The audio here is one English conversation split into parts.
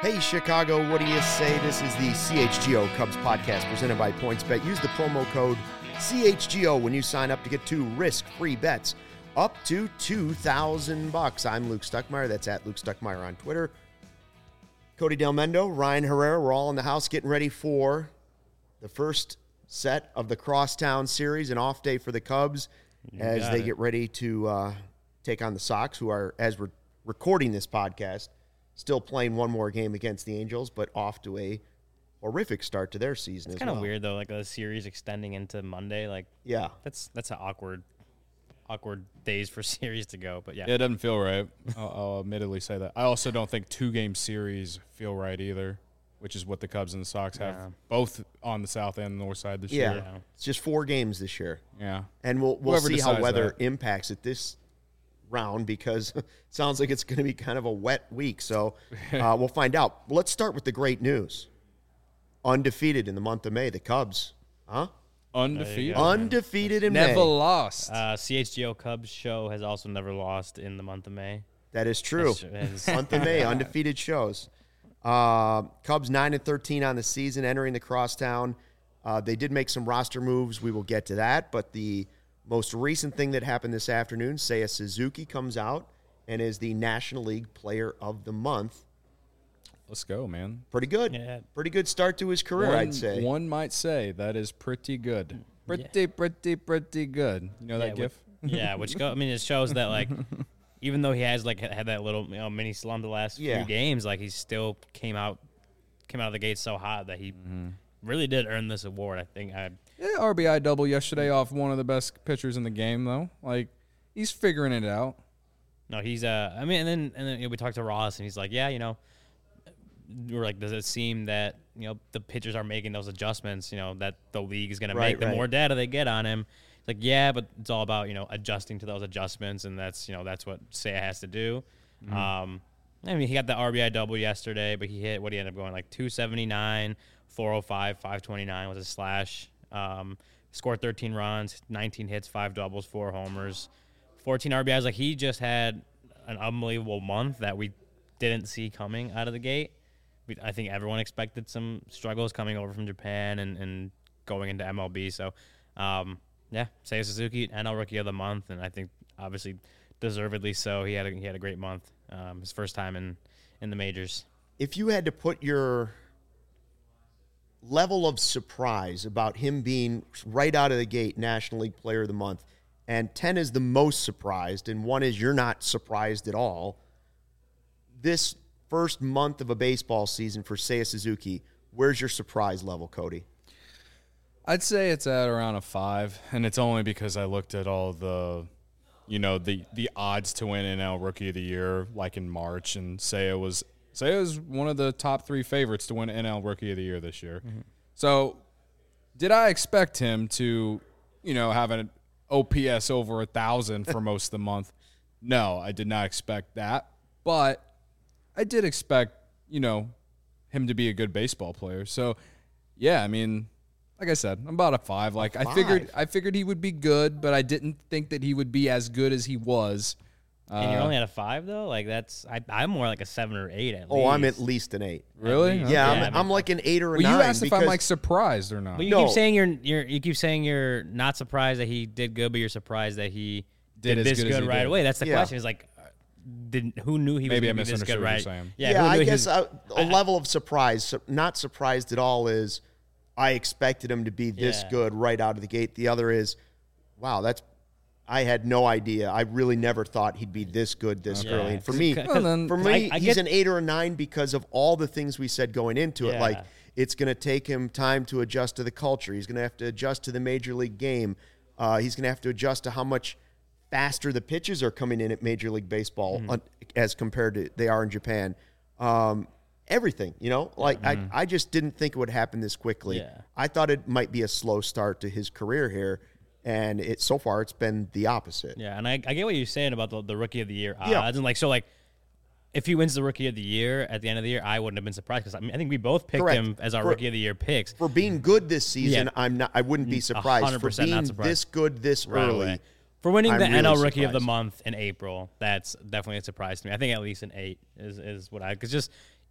Hey, Chicago, what do you say? This is the CHGO Cubs podcast presented by PointsBet. Use the promo code CHGO when you sign up to get 2 risk-free bets up to $2,000. I'm Luke Stuckmeyer. That's at Luke Stuckmeyer on Twitter. Cody Del Mendo, Ryan Herrera, we're all in the house getting ready for the first set of the Crosstown Series, an off day for the Cubs as they get ready to take on the Sox, who are, as we're recording this podcast, still playing one more game against the Angels, but off to a horrific start to their season as well. It's kind of weird, though, like a series extending into Monday. Like, yeah. That's an awkward days for series to go, but yeah. Yeah, it doesn't feel right. I'll admittedly say that. I also don't think 2-game series feel right either, which is what the Cubs and the Sox have both on the south and the north side this year. Yeah, it's just 4 games this year. Yeah. And we'll see how weather impacts it this round, because it sounds like it's going to be kind of a wet week. So we'll find out. Let's start with the great news. Undefeated in the month of May, the Cubs. Undefeated. Undefeated in May. Never lost. CHGO Cubs show has also never lost in the month of May. That is true. Month of May, undefeated shows. Cubs 9-13 on the season, entering the Crosstown. They did make some roster moves. We will get to that. But the most recent thing that happened this afternoon, Seiya Suzuki comes out and is the National League Player of the Month. Let's go, man. Pretty good. Yeah. Pretty good start to his career, I'd say. One might say that is pretty good. Pretty good. You know that gif? It shows that, like, even though he has, like, had that little mini slump the last few games, like, he still came out of the gate so hot that he really did earn this award. I think RBI double yesterday off one of the best pitchers in the game, though. Like, he's figuring it out. No, he's and then we talked to Ross, and he's like, we're like, does it seem that the pitchers are making those adjustments? That the league is going to make the more data they get on him. It's like, yeah, but it's all about adjusting to those adjustments, and that's what Seiya has to do. He got the RBI double yesterday, but he ended up going like 279, 405, 529 was his slash. Scored 13 runs, 19 hits, 5 doubles, 4 homers, 14 RBIs. Like, he just had an unbelievable month that we didn't see coming out of the gate. I think everyone expected some struggles coming over from Japan and going into MLB. So, Seiya Suzuki, NL Rookie of the Month, and I think obviously deservedly so. He had a great month. His first time in the majors. If you had to put your level of surprise about him being right out of the gate National League Player of the Month, and 10 is the most surprised, and 1 is you're not surprised at all, this first month of a baseball season for Seiya Suzuki, where's your surprise level, Cody? I'd say it's at around a 5, and it's only because I looked at all the odds to win NL Rookie of the Year, like in March, and Seiya was one of the top 3 favorites to win NL Rookie of the Year this year. Mm-hmm. So, did I expect him to, have an OPS over 1,000 for most of the month? No, I did not expect that, but I did expect, him to be a good baseball player. So, yeah, like I said, I'm about a 5. Like, I figured he would be good, but I didn't think that he would be as good as he was. And you're only at a 5, though? Like, I'm more like a 7 or 8 at least. Oh, I'm at least an 8. Really? Yeah, I'm like an 8 or a 9. Well, you asked if I'm like surprised or not. But you keep saying you're not surprised that he did good, but you're surprised that he did this good right away. That's the question. Is like, who knew he was going to be this good, right? Yeah, I guess a level of surprise, not surprised at all, is I expected him to be this good right out of the gate. The other is, wow, I had no idea. I really never thought he'd be this good this early. And for me, he's an 8 or a 9 because of all the things we said going into it. Like, it's going to take him time to adjust to the culture. He's going to have to adjust to the major league game. He's going to have to adjust to how much faster the pitches are coming in at Major League Baseball as compared to they are in Japan. Everything, I just didn't think it would happen this quickly. Yeah. I thought it might be a slow start to his career here, and so far it's been the opposite. Yeah, and I get what you're saying about the Rookie of the Year odds, and if he wins the Rookie of the Year at the end of the year, I wouldn't have been surprised because I think we both picked him as our Rookie of the Year picks. For being good this season, I wouldn't be surprised. 100% for being not surprised. This good this early. Away. For winning the NL Rookie of the Month in April, that's definitely a surprise to me. I think at least an 8 is what because just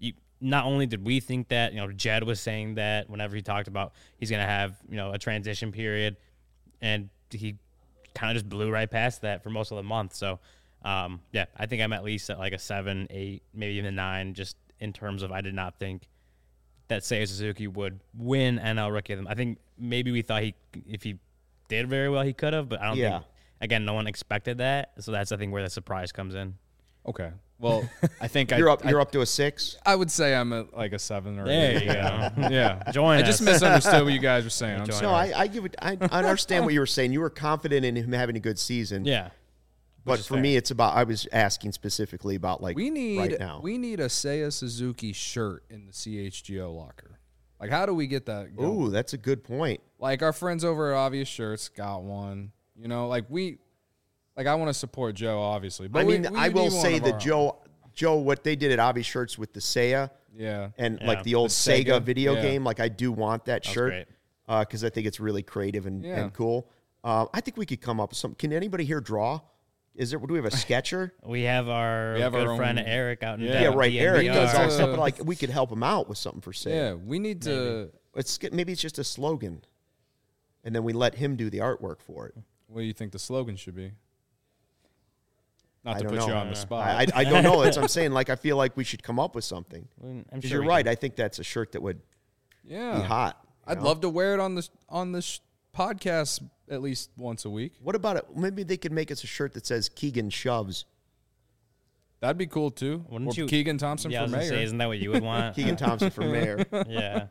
not only did we think that, Jed was saying that whenever he talked about he's going to have, a transition period, and he kind of just blew right past that for most of the month. So, I think I'm at least at like a 7, 8, maybe even a 9, just in terms of I did not think that Seiya Suzuki would win NL Rookie of the Month. I think maybe we thought if he did very well, he could have, but I don't think, again, no one expected that. So that's, I think, where the surprise comes in. Okay. Well, I think you're up to a 6. I would say I'm at like a 7 or 8. There you go. Yeah. Join us. I just misunderstood what you guys were saying. I understand what you were saying. You were confident in him having a good season. Yeah. But for me, it's about, I was asking specifically about right now. We need a Seiya Suzuki shirt in the CHGO locker. Like, how do we get that going? Ooh, that's a good point. Like, our friends over at Obvious Shirts got one. I want to support Joe, obviously. But I will say that Joe, what they did at Obvious Shirts with the Seiya, and like the old Sega video game, like I do want that shirt because I think it's really creative and cool. I think we could come up with something. Can anybody here draw? Do we have a sketcher? We have our good friend Eric out in Eric does all stuff, but like we could help him out with something for Seiya. Yeah, we need to. Maybe it's just a slogan, and then we let him do the artwork for it. What do you think the slogan should be? Not to put you on the spot. I don't know. That's what I'm saying. Like, I feel like we should come up with something. Because you're right. I think that's a shirt that would be hot. I'd love to wear it on the podcast at least once a week. What about it? Maybe they could make us a shirt that says Keegan shoves. That'd be cool too. Wouldn't you? Keegan Thompson for mayor. Isn't that what you would want? Keegan Thompson for mayor. Yeah.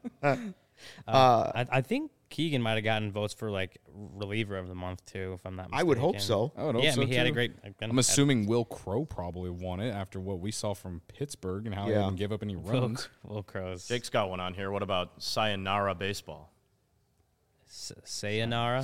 I think Keegan might have gotten votes for like reliever of the month too, if I'm not mistaken. I would hope so. I would hope so he had a great. I'm assuming Will Crow probably won it after what we saw from Pittsburgh and how he didn't give up any runs. Will Crow's. Jake's got one on here. What about Sayonara baseball? Sayonara.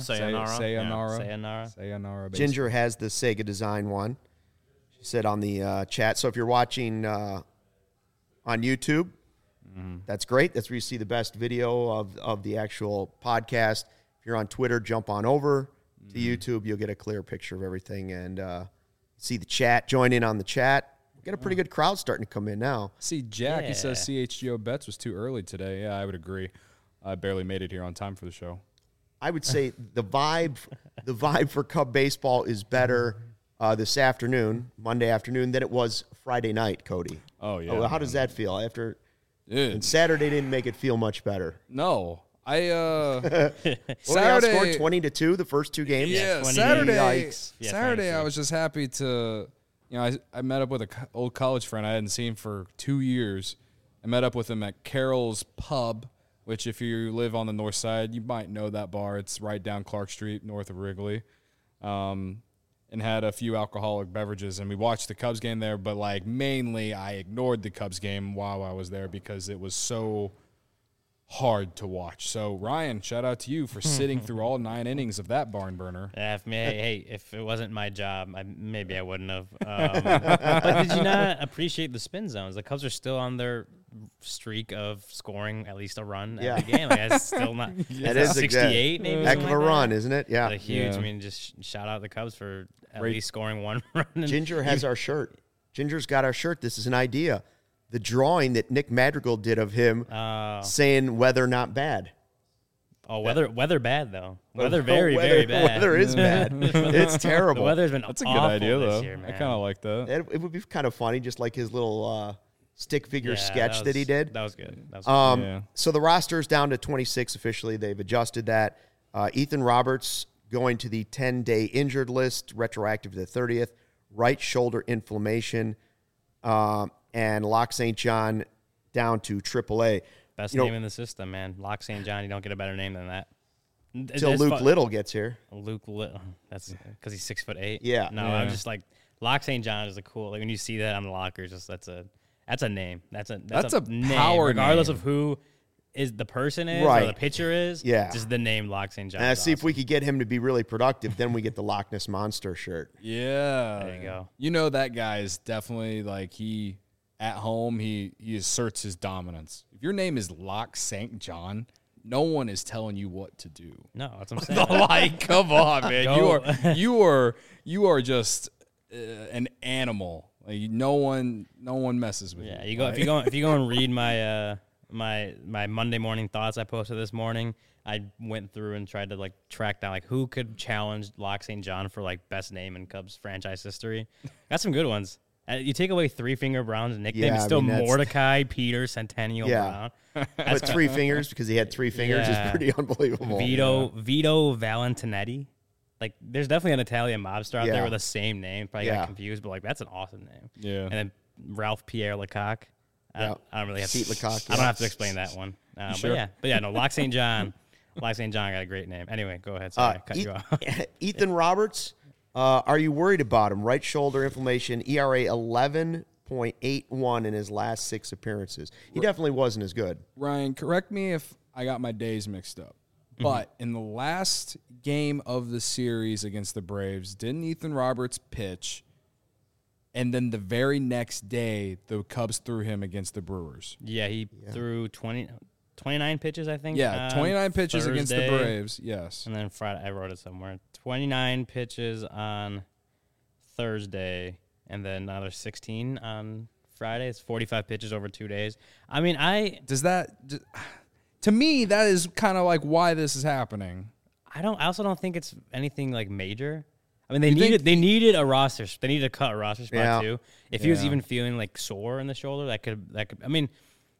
Sayonara. Ginger has the Sega design one. She said on the chat. So if you're watching on YouTube, that's great. That's where you see the best video of the actual podcast. If you're on Twitter, jump on over to YouTube. You'll get a clear picture of everything and see the chat. Join in on the chat. We got a pretty good crowd starting to come in now. See, Jack, he says CHGO bets was too early today. Yeah, I would agree. I barely made it here on time for the show. I would say the vibe for Cub baseball is better this afternoon, Monday afternoon, than it was Friday night, Cody. Oh, yeah. How does that feel? And Saturday didn't make it feel much better. No. Saturday scored 20-2 the first 2 games. Yeah, Saturday I was just happy to, I met up with an old college friend I hadn't seen for 2 years. I met up with him at Carol's Pub, which if you live on the north side, you might know that bar. It's right down Clark Street, north of Wrigley. And had a few alcoholic beverages, and we watched the Cubs game there, but, like, mainly I ignored the Cubs game while I was there because it was so hard to watch. So, Ryan, shout out to you for sitting through all 9 innings of that barn burner. Yeah, if it wasn't my job, maybe I wouldn't have. But did you not appreciate the spin zones? The Cubs are still on their streak of scoring at least a run every game. Like, that's still not. That is 68, maybe. Heck of a run, isn't it? Yeah. That's huge. I mean, just shout out the Cubs for at least scoring 1 run. Ginger has our shirt. Ginger's got our shirt. This is an idea. The drawing that Nick Madrigal did of him saying weather not bad. Oh, weather bad though. Weather very bad. Weather is bad. It's terrible. The weather's been That's a good idea though. Year, man. I kind of like that. It would be kind of funny, just like his little stick figure sketch that he did. That was good. So the roster's down to 26 officially. They've adjusted that. Ethan Roberts going to the 10-day injured list, retroactive to the 30th. Right shoulder inflammation. And Locke St. John down to AAA. Best name in the system, man. Locke St. John. You don't get a better name than that. Till Luke Little gets here. Luke Little. That's because he's 6'8". Yeah. No, I'm just like Locke St. John is a cool. Like when you see that on the lockers, just that's a name. That's a name, power regardless name. of who is the person is right. or the pitcher is. Yeah. Just the name Locke St. John. And see if we could get him to be really productive. Then we get the Loch Ness Monster shirt. Yeah. There you go. You know that guy is definitely like at home, he asserts his dominance. If your name is Locke St. John, no one is telling you what to do. No, that's what I'm saying. Like, come on, man. You are just an animal. Like no one messes with you. Yeah, if you go and read my my Monday morning thoughts I posted this morning, I went through and tried to like track down like who could challenge Locke St. John for like best name in Cubs franchise history. Got some good ones. You take away Three Finger Brown's nickname, it's still Mordecai Peter Centennial Brown. With 3 fingers because he had 3 fingers is pretty unbelievable. Vito Valentinetti. Like, there's definitely an Italian mobster out there with the same name. Probably got confused, but like that's an awesome name. Yeah. And then Ralph Pierre Lecoq. I don't really have Pete Lecoq. I don't have to explain that one. Sure? But yeah, no, Locke St. John. Locke St. John got a great name. Anyway, go ahead. Sorry, I cut you off. Ethan Roberts, are you worried about him? Right shoulder inflammation, ERA 11.81 in his last 6 appearances. He definitely wasn't as good. Ryan, correct me if I got my days mixed up. But in the last game of the series against the Braves, didn't Ethan Roberts pitch? And then the very next day, the Cubs threw him against the Brewers. Yeah, he threw 29 pitches, I think. Yeah, 29 pitches Thursday, against the Braves, yes. And then Friday, I wrote it somewhere. 29 pitches on Thursday, and then another 16 on Friday. It's 45 pitches over 2 days. I mean, to me, that is kind of like why this is happening. I also don't think it's anything like major. I mean, they needed a roster. They needed to cut a roster spot too. If he was even feeling like sore in the shoulder, that could. I mean,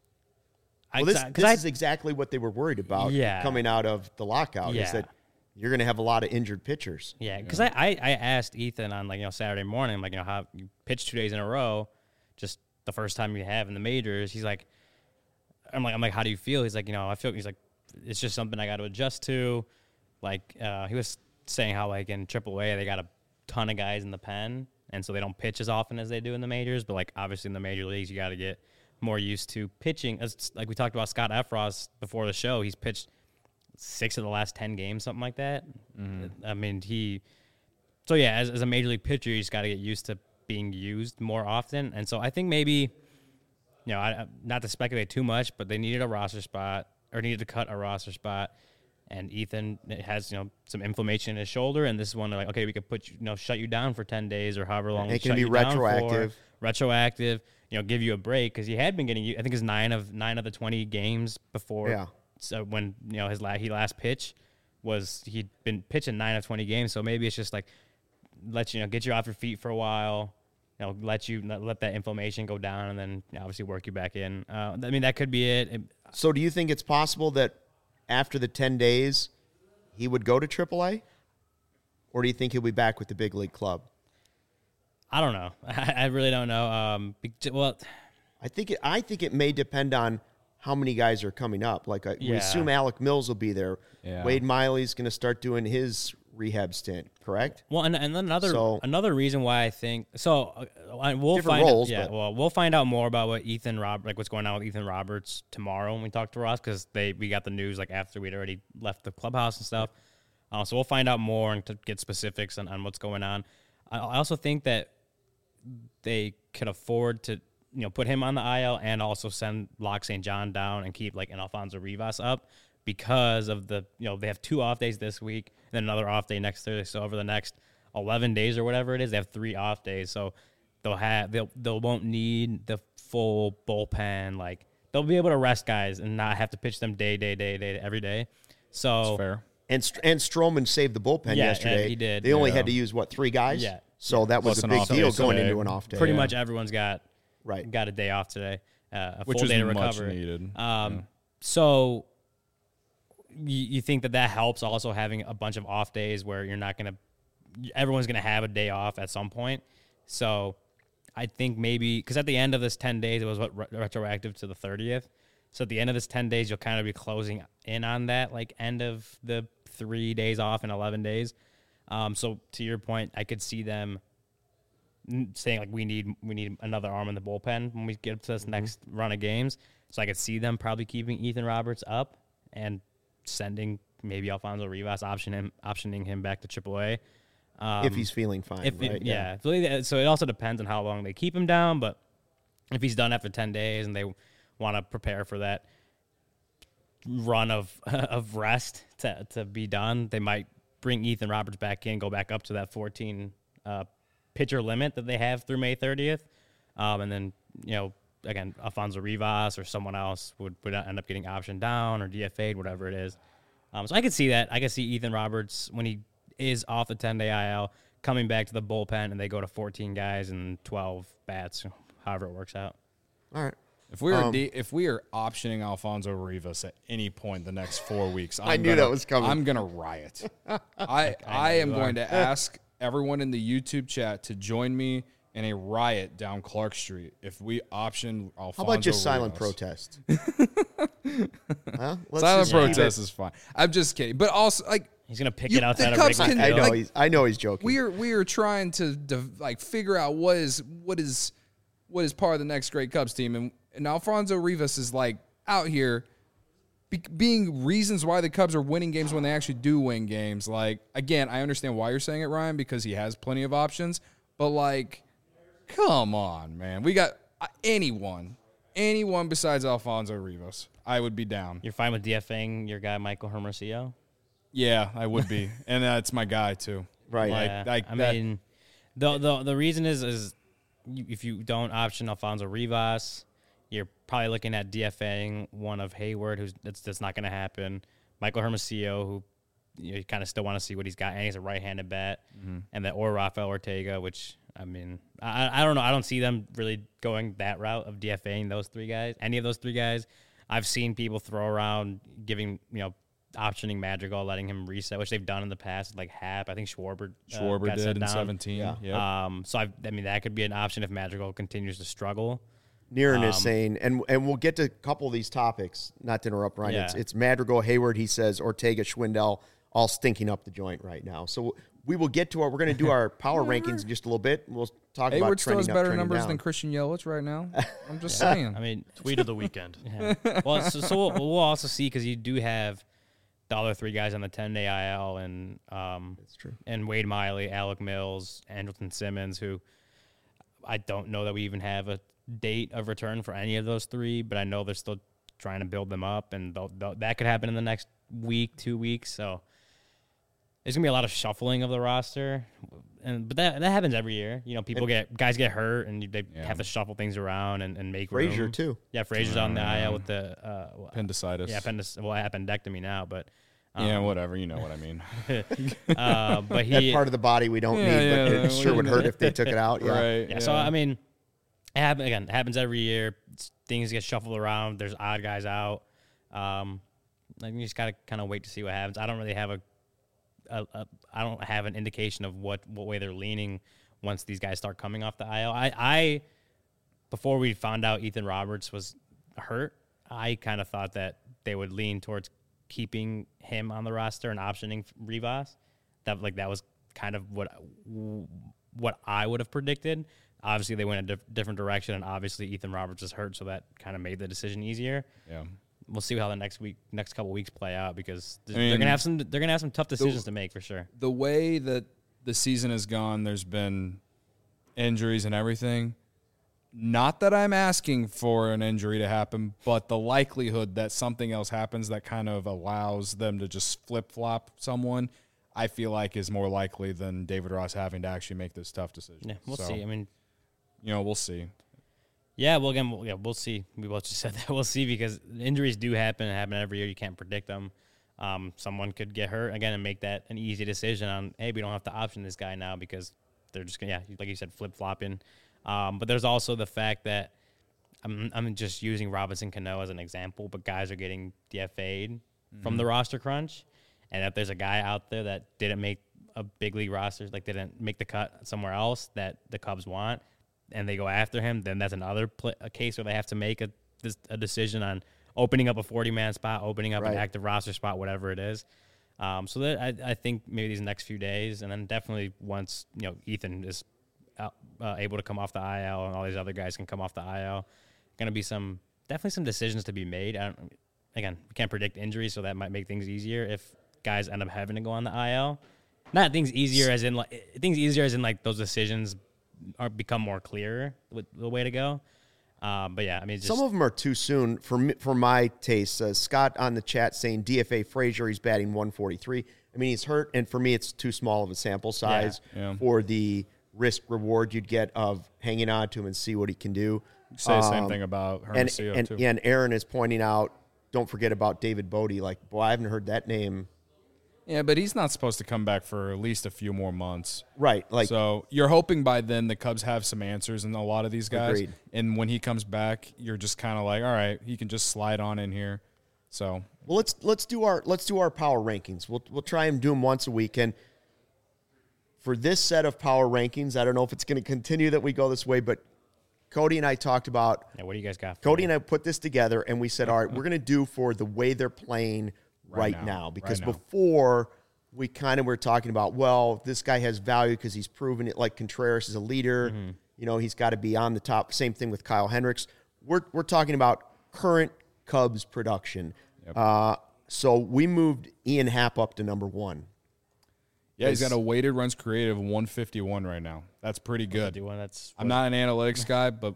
this is exactly what they were worried about coming out of the lockout. Is that you're going to have a lot of injured pitchers. Yeah, because I asked Ethan on Saturday morning, I'm like, how you pitched 2 days in a row, just the first time you have in the majors. He's like, I'm like, how do you feel? He's like, I feel. He's like, it's just something I got to adjust to. Like he was saying how like in AAA they got a ton of guys in the pen, and so they don't pitch as often as they do in the majors. But like obviously in the major leagues, you got to get more used to pitching. As like we talked about Scott Effross before the show, he's pitched 6 of the last 10 games, something like that. I mean, as a major league pitcher, you just got to get used to being used more often. And so I think maybe, not to speculate too much, but they needed a roster spot or needed to cut a roster spot. And Ethan has, some inflammation in his shoulder, and this is one they're like, okay, we could shut you down for 10 days or however long. It can be retroactive. Give you a break because he had been getting, I think, his 9 of the 20 games before. Yeah. So when he last pitched he'd been pitching 9 of 20 games. So maybe it's just like get you off your feet for a while, let that inflammation go down, and then obviously work you back in. I mean, that could be it. So do you think it's possible that after the 10 days, he would go to AAA? Or do you think he'll be back with the big league club? I don't know. I really don't know. I think it may depend on how many guys are coming up. Like we assume Alec Mills will be there. Yeah. Wade Miley's going to start doing his rehab stint, correct? Well, and another reason why I think we'll find out more about what's going on with Ethan Roberts tomorrow when we talk to Ross, because we got the news like after we'd already left the clubhouse and stuff. So we'll find out more and to get specifics on what's going on. I also think that they could afford to put him on the IL and also send Locke St. John down and keep like an Alfonso Rivas up, because of the they have 2 off days this week and then another off day next Thursday. So over the next 11 days or whatever it is, they have 3 off days. So they won't need the full bullpen. Like they'll be able to rest guys and not have to pitch them day every day. So that's fair. And Stroman saved the bullpen yesterday. Yeah, he did. They only had to use 3 guys. Yeah. So that was a big deal going into an off day. Pretty much everyone's got a day off today, a full day to recover. Much needed. So you think that helps also having a bunch of off days where everyone's going to have a day off at some point. So I think maybe, because at the end of this 10 days, it was retroactive to the 30th. So at the end of this 10 days, you'll kind of be closing in on that, like end of the 3 days off in 11 days. So to your point, I could see them saying like we need another arm in the bullpen when we get up to this next run of games. So I could see them probably keeping Ethan Roberts up and sending maybe Alfonso Rivas, optioning him back to AAA. If he's feeling fine, right? Yeah. So it also depends on how long they keep him down, but if he's done after 10 days and they want to prepare for that run of rest to be done, they might bring Ethan Roberts back in, go back up to that 14 pitcher limit that they have through May 30th. And then, again, Alfonso Rivas or someone else would end up getting optioned down or DFA'd, whatever it is. So I could see that. I could see Ethan Roberts, when he is off the 10-day IL, coming back to the bullpen and they go to 14 guys and 12 bats, however it works out. All right. If we are optioning Alfonso Rivas at any point the next 4 weeks, I knew that was coming. I'm gonna riot. I am going to ask everyone in the YouTube chat to join me in a riot down Clark Street if we option Alfonso. How about just silent Rivas. protest? Huh? Silent protest is fine. I'm just kidding, but also he's gonna pick it outside of Cubs Wrigley can- Field. I know he's joking. we are trying to figure out what is part of the next great Cubs team, and Alfonso Rivas is out here being reasons why the Cubs are winning games when they actually do win games. Again, I understand why you're saying it, Ryan, because he has plenty of options, but come on, man. We got anyone besides Alfonso Rivas, I would be down. You're fine with DFAing your guy Michael Hermosillo? Yeah, I would be, and that's my guy too. Right. The reason is if you don't option Alfonso Rivas, you're probably looking at DFAing one of Hayward, that's not going to happen. Michael Hermosillo, who you kind of still want to see what he's got, and he's a right-handed bat, or Rafael Ortega, which I don't know. I don't see them really going that route of DFAing those three guys. Any of those three guys, I've seen people throw around giving optioning Madrigal, letting him reset, which they've done in the past, like Happ. I think Schwarber got did set in down. 17. Yeah. Yep. So that could be an option if Madrigal continues to struggle. Niren is saying, and we'll get to a couple of these topics, not to interrupt, Ryan. Yeah. It's Madrigal, Hayward, he says, Ortega, Schwindel, all stinking up the joint right now. So we will get to we're going to do our power rankings in just a little bit. We'll talk Hayward about still trending has up, better trending numbers down. than Christian Yelich right now. I'm just saying. Tweet of the weekend. Yeah. Well, so we'll also see, because you do have the other three guys on the 10-day IL, and That's true. and Wade Miley, Alec Mills, Andrelton Simmons, who I don't know that we even have a date of return for any of those three, but I know they're still trying to build them up, and that could happen in the next week, 2 weeks. So there's gonna be a lot of shuffling of the roster, but that happens every year. Guys get hurt, and they have to shuffle things around and make Frazier, room. too. Yeah, Frazier's on the IL with the Appendicitis. Yeah, appendectomy now, but Yeah, whatever. You know what I mean. but That part of the body we don't need, but it sure would hurt if they took it out. Yeah. Right. Yeah, so it happens every year. Things get shuffled around. There's odd guys out. You just gotta kind of wait to see what happens. I don't really have I don't have an indication of what way they're leaning once these guys start coming off the IL. I before we found out Ethan Roberts was hurt, I kind of thought that they would lean towards keeping him on the roster and optioning Rivas. That was kind of what I would have predicted. Obviously, they went a different direction, and obviously Ethan Roberts is hurt, so that kind of made the decision easier. Yeah. We'll see how the next couple weeks play out, because they're gonna have some tough decisions to make for sure. The way that the season has gone, there's been injuries and everything. Not that I'm asking for an injury to happen, but the likelihood that something else happens that kind of allows them to just flip-flop someone, I feel like is more likely than David Ross having to actually make this tough decision. Yeah, we'll see. We'll see. Yeah, well, again, we'll see. We both just said that. We'll see, because injuries do happen every year. You can't predict them. Someone could get hurt again and make that an easy decision on, hey, we don't have to option this guy now, because they're just gonna, like you said, flip-flopping. But there's also the fact that I'm just using Robinson Cano as an example, but guys are getting DFA'd from the roster crunch, and if there's a guy out there that didn't make a big league roster, didn't make the cut somewhere else that the Cubs want, and they go after him, then that's another a case where they have to make a decision on opening up a 40-man spot, opening up an active roster spot, whatever it is. So that I think maybe these next few days, and then definitely once Ethan is able to come off the IL and all these other guys can come off the IL, going to be definitely some decisions to be made. We can't predict injuries, so that might make things easier if guys end up having to go on the IL. Not things easier as in those decisions become more clear with the way to go. But yeah, some of them are too soon for my taste. Scott on the chat saying DFA Frazier, he's batting 143. He's hurt, and for me, it's too small of a sample size for the risk reward you'd get of hanging on to him and see what he can do. Say the same thing about Hermosillo, too. And Aaron is pointing out, don't forget about David Bodie. Like, boy, I haven't heard that name. Yeah, but he's not supposed to come back for at least a few more months. Right. So you're hoping by then the Cubs have some answers in a lot of these guys. Agreed. And when he comes back, you're just kind of like, all right, he can just slide on in here. So well, let's do our power rankings. We'll try and do them once a week. And for this set of power rankings, I don't know if it's going to continue that we go this way, but Cody and I talked about. Yeah, what do you guys got? Cody and I put this together, and we said, all right, we're going to do for the way they're playing right now. Because before, we kind of were talking about, well, this guy has value because he's proven it. Like Contreras is a leader. Mm-hmm. You know, he's got to be on the top. Same thing with Kyle Hendricks. We're talking about current Cubs production. Yep. So we moved Ian Happ up to number 1. Yeah, he's got a weighted runs created of 151 right now. That's pretty good. I'm not an analytics guy, but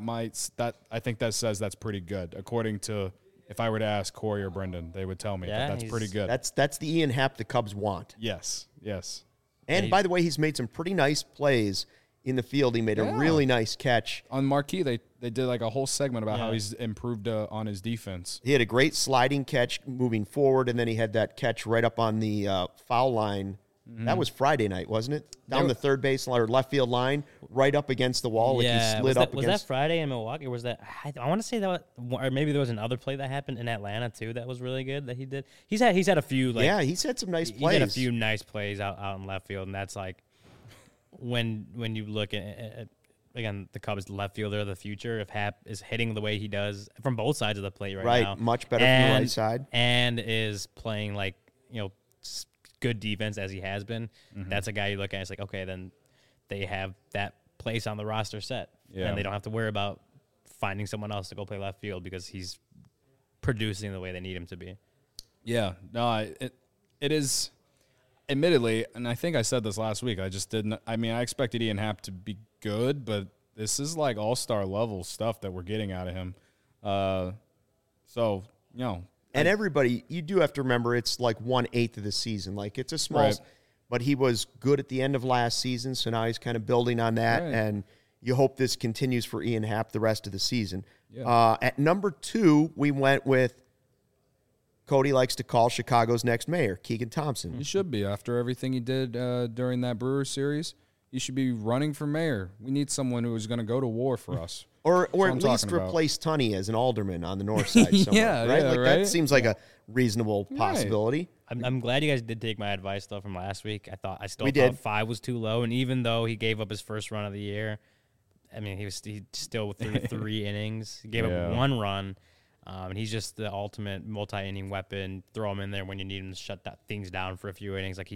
I think that says that's pretty good. According to, if I were to ask Corey or Brendan, they would tell me that's pretty good. That's the Ian Happ the Cubs want. Yes. And by the way, he's made some pretty nice plays in the field. He made a really nice catch. On Marquee, they did like a whole segment about how he's improved on his defense. He had a great sliding catch moving forward, and then he had that catch right up on the foul line. Mm-hmm. That was Friday night, wasn't it? Down the third base line or left field line, right up against the wall. Like he slid up was that Friday in Milwaukee? Or was that? I want to say that, or maybe there was another play that happened in Atlanta too. That was really good that he did. He's had a few. He's had some nice plays. He's had a few nice plays out in left field, and that's like when you look at again the Cubs left fielder of the future. If Happ is hitting the way he does from both sides of the plate right now, much better from the right side, and is playing like good defense as he has been, that's a guy you look at and it's like, okay, then they have that place on the roster set. Yeah. And they don't have to worry about finding someone else to go play left field because he's producing the way they need him to be. Yeah. No, it is, admittedly, and I think I said this last week, I expected Ian Happ to be good, but this is like all-star level stuff that we're getting out of him. And everybody, you do have to remember, it's like 1/8 of the season. Like, it's a small, but he was good at the end of last season, so now he's kind of building on that, and you hope this continues for Ian Happ the rest of the season. Yeah. At number 2, we went with, Cody likes to call Chicago's next mayor, Keegan Thompson. He should be. After everything he did during that Brewers series, he should be running for mayor. We need someone who is going to go to war for us. Or at least replace Tunney as an alderman on the north side somewhere, right? That seems like a reasonable possibility. I'm glad you guys did take my advice, though, from last week. I still thought 5 was too low, and even though he gave up his first run of the year, I mean, he still threw 3 innings. He gave up 1 run, and he's just the ultimate multi-inning weapon. Throw him in there when you need him to shut things down for a few innings. Like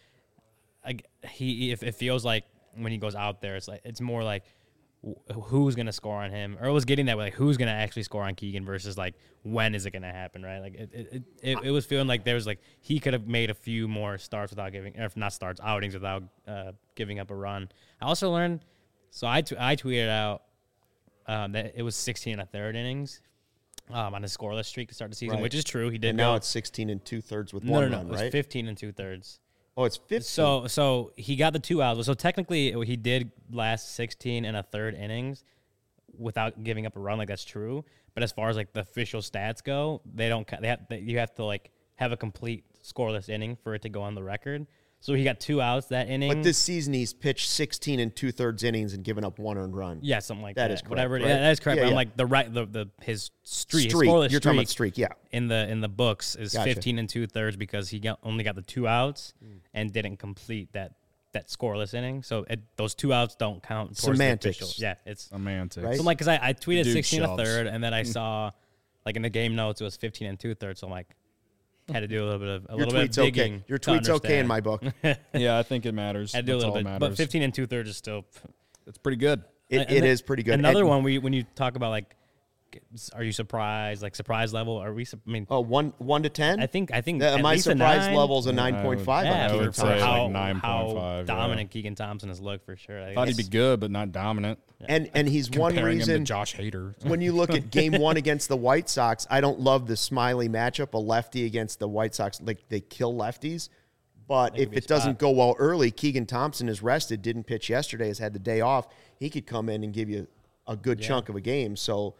it feels like when he goes out there, it's more like, who's going to score on him? Or it was getting that way, like, who's going to actually score on Keegan versus, like, when is it going to happen, right? Like, it was feeling like there was, like, he could have made a few more starts without outings without giving up a run. I also learned, so I tweeted out that it was 16 1/3 innings on his scoreless streak to start the season, which is true. He did. And now it's 16 2/3 with 1 run, right? It was 15 2/3. Oh, it's 15. So he got the 2 outs. So technically, he did last 16 1/3 innings without giving up a run. Like, that's true. But as far as like the official stats go, you have to like have a complete scoreless inning for it to go on the record. So he got 2 outs that inning. But this season he's pitched 16 2/3 innings and given up 1 earned run. Yeah, something like that. That is correct. Whatever. Right? Yeah, that is correct. Yeah, but I'm like his streak. You're talking about streak, yeah. In the books is 15 2/3 because he only got the 2 outs and didn't complete that scoreless inning. So those 2 outs don't count. Semantics. Yeah, it's semantics. Right? So like, because I tweeted 16 1/3 and then I saw like in the game notes it was 15 2/3. So I'm like, had to do a little bit of digging. Okay. Your tweet's okay in my book. Yeah, I think it matters. I do a little bit, but 15 2/3 is still. It's pretty good. It is pretty good. Another one when you talk about like, are you surprised? Like surprise level? Are we? I mean, 1 to 10. I think my surprise level is a 9.5. I would say like 9.5. How dominant Keegan Thompson has looked for sure. I thought he'd be good, but not dominant. And he's one reason. Him to Josh Hader. When you look at Game 1 against the White Sox, I don't love the Smiley matchup, a lefty against the White Sox. Like, they kill lefties. But if it doesn't go well early, Keegan Thompson is rested, didn't pitch yesterday, has had the day off. He could come in and give you a good chunk of a game. So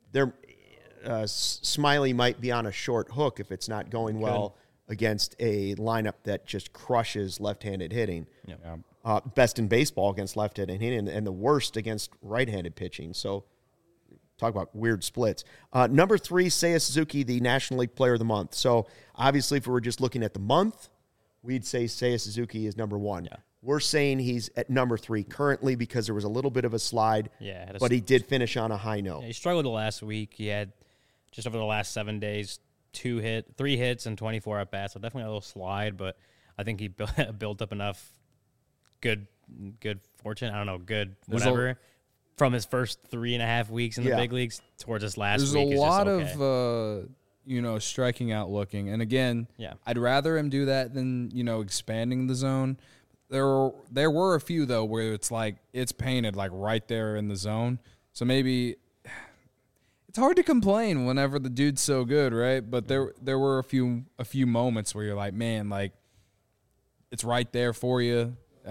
Smiley might be on a short hook if it's not going well against a lineup that just crushes left-handed hitting. Yeah. Best in baseball against left-handed hitting and the worst against right-handed pitching. So talk about weird splits. Number 3, Seiya Suzuki, the National League Player of the Month. So obviously if we were just looking at the month, we'd say Seiya Suzuki is number 1. Yeah. We're saying he's at number 3 currently because there was a little bit of a slide, but he did finish on a high note. Yeah, he struggled the last week. He had just over the last 7 days, 3 hits and 24 at bats. So definitely a little slide, but I think he built up enough good fortune. I don't know, good whatever from his first 3.5 weeks in the big leagues towards this last week. There's a lot of striking out looking, and again, I'd rather him do that than expanding the zone. There were a few though where it's like it's painted like right there in the zone, so maybe. It's hard to complain whenever the dude's so good, right? But there were a few moments where you're like, man, like it's right there for you.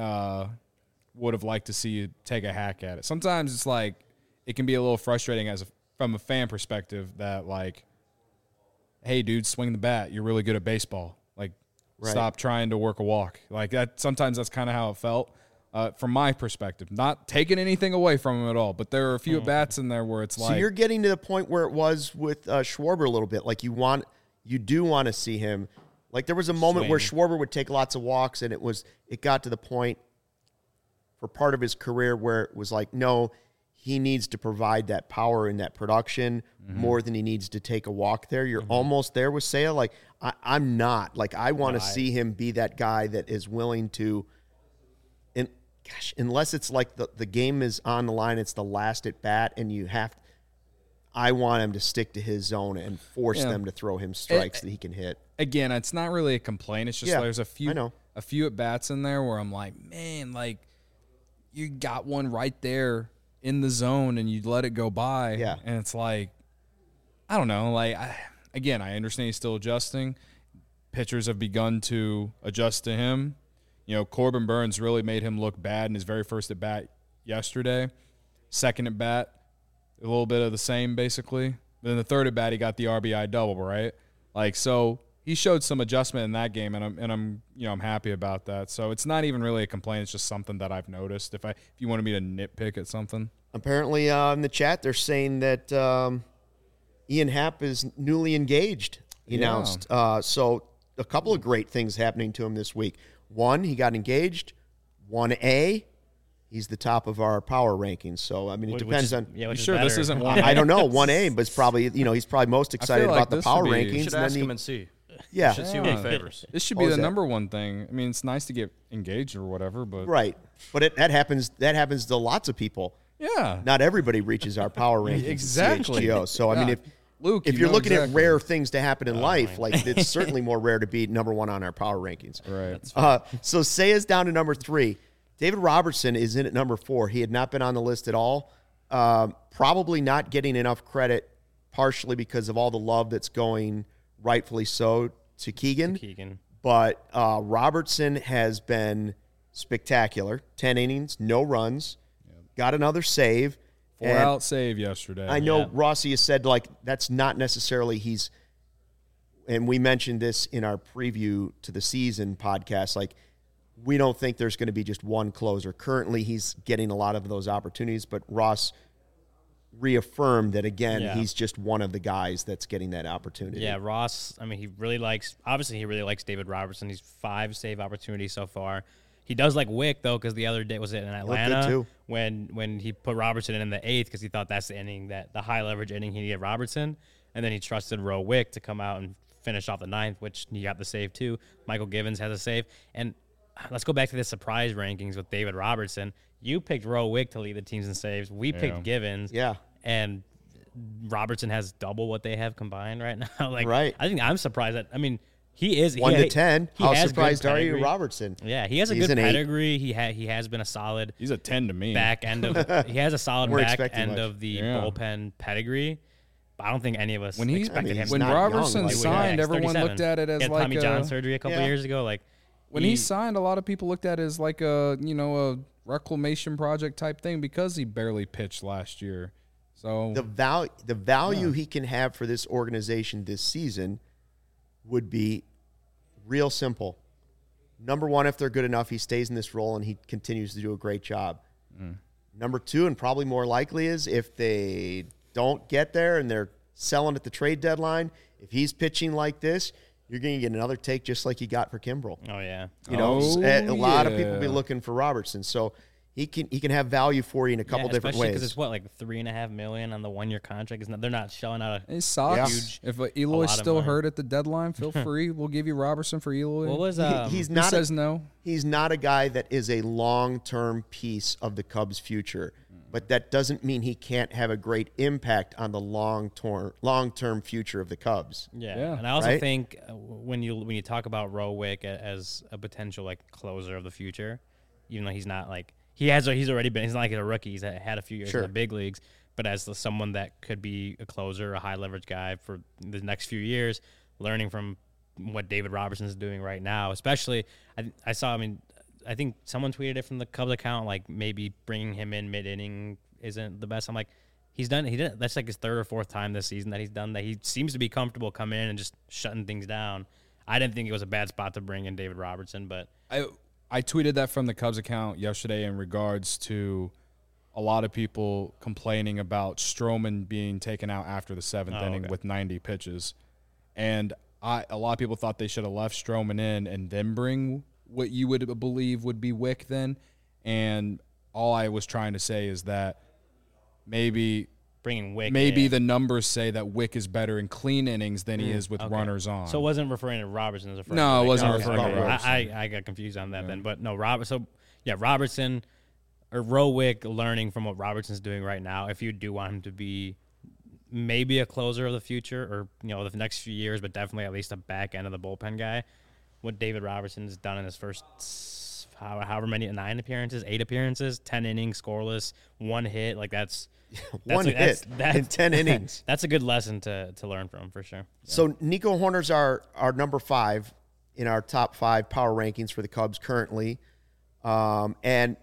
Would have liked to see you take a hack at it. Sometimes it's like it can be a little frustrating from a fan perspective that like, hey, dude, swing the bat. You're really good at baseball. Like, stop trying to work a walk. Like that. Sometimes that's kind of how it felt. From my perspective, not taking anything away from him at all, but there are a few at-bats in there where it's like... So you're getting to the point where it was with Schwarber a little bit. Like you do want to see him. Like there was a moment where Schwarber would take lots of walks, and it got to the point for part of his career where it was like, no, he needs to provide that power and that production more than he needs to take a walk there. You're almost there with Seiya. Like I'm not. Like I want to see him be that guy that is willing to... Gosh, unless it's like the game is on the line, it's the last at bat, and I want him to stick to his zone and force them to throw him strikes that he can hit. Again, it's not really a complaint. It's just there's a few at bats in there where I'm like, man, like you got one right there in the zone and you let it go by. Yeah. And it's like, I don't know. Like, I understand he's still adjusting. Pitchers have begun to adjust to him. Corbin Burns really made him look bad in his very first at bat yesterday. Second at bat, a little bit of the same basically. But then the third at bat, he got the RBI double, right? Like so, he showed some adjustment in that game, and I'm happy about that. So it's not even really a complaint; it's just something that I've noticed. If you wanted me to nitpick at something, apparently in the chat they're saying that Ian Happ is newly engaged. He announced so a couple of great things happening to him this week. 1, he got engaged. 1A, he's the top of our power rankings. So, I mean, it depends on... Yeah, you sure this isn't 1A? I don't know. 1A, but it's probably, he's probably most excited about the power rankings. You should ask him and see. Yeah. You should see what he favors. This should be the number one thing. I mean, it's nice to get engaged or whatever, but... Right. But that happens to lots of people. Yeah. Not everybody reaches our power rankings. Exactly. CHGO. So, I mean, if you're looking at rare things to happen in life, like it's certainly more rare to be number 1 on our power rankings. Right. So Seiya's down to number 3. David Robertson is in at number 4. He had not been on the list at all. Probably not getting enough credit, partially because of all the love that's going, rightfully so, to Keegan. But Robertson has been spectacular. 10 innings, no runs, got another save. 4-out save yesterday. I know Rossi has said, like, that's not necessarily and we mentioned this in our preview to the season podcast, like, we don't think there's going to be just one closer. Currently, he's getting a lot of those opportunities, but Ross reaffirmed that, again, he's just one of the guys that's getting that opportunity. Yeah, Ross, I mean, he really likes David Robertson. He's 5 save opportunities so far. He does like Wick, though, because the other day was it in Atlanta when he put Robertson in the 8th because he thought that's the inning, the high leverage inning he needed Robertson. And then he trusted Roe Wick to come out and finish off the 9th, which he got the save too. Michael Givens has a save. And let's go back to the surprise rankings with David Robertson. You picked Roe Wick to lead the teams in saves. We picked Givens. Yeah. And Robertson has double what they have combined right now. Right. I think I'm surprised that, I mean, he is 1 to 10. How surprised are you, Robertson? Yeah, he has a good pedigree. He has been a solid. He's a 10 to me. Back end of he has a solid back end of the bullpen pedigree. But I don't think any of us expected him. When Robertson signed, everyone looked at it as like Tommy John surgery a couple years ago. Like when he signed, a lot of people looked at it as like a reclamation project type thing because he barely pitched last year. So the value he can have for this organization this season would be real simple. Number one, if they're good enough, he stays in this role and he continues to do a great job. Number two, and probably more likely, is if they don't get there and they're selling at the trade deadline, if he's pitching like this, you're going to get another take just like you got for Kimbrel. Oh, yeah. A lot of people be looking for Robertson. So he can have value for you in a couple different ways. Because it's like $3.5 million on the 1-year contract. They're not shelling out it sucks. Huge. If Eloy's still hurt at the deadline, feel free. We'll give you Robertson for Eloy. What was he's not says no? He's not a guy that is a long-term piece of the Cubs' future, but that doesn't mean he can't have a great impact on the long-term future of the Cubs. Yeah. And I also think when you talk about Rowick as a potential like closer of the future, even though he's not like he's already been, he's not like a rookie. He's had a few years in the big leagues, but as someone that could be a closer, a high leverage guy for the next few years, learning from what David Robertson is doing right now, especially I think someone tweeted it from the Cubs account, like maybe bringing him in mid-inning isn't the best. I'm like, he did that's like his third or fourth time this season that he's done that. He seems to be comfortable coming in and just shutting things down. I didn't think it was a bad spot to bring in David Robertson, but I tweeted that from the Cubs account yesterday in regards to a lot of people complaining about Stroman being taken out after the seventh inning with 90 pitches. And a lot of people thought they should have left Stroman in and then bring what you would believe would be Wick then. And all I was trying to say is that maybe bringing Wick the numbers say that Wick is better in clean innings than he is with runners on. So it wasn't referring to Robertson as a friend. No, it wasn't referring to Robertson. I got confused on that then. But no, Robertson or Rowick learning from what Robertson's doing right now, if you do want him to be maybe a closer of the future or, the next few years, but definitely at least a back end of the bullpen guy, what David Robertson's done in his first however many, 8 appearances, 10 innings, scoreless, 1 hit, like that's hit in 10 innings. That's a good lesson to learn from for sure. So Nico Hoerner's our number 5 in our top 5 power rankings for the Cubs currently. And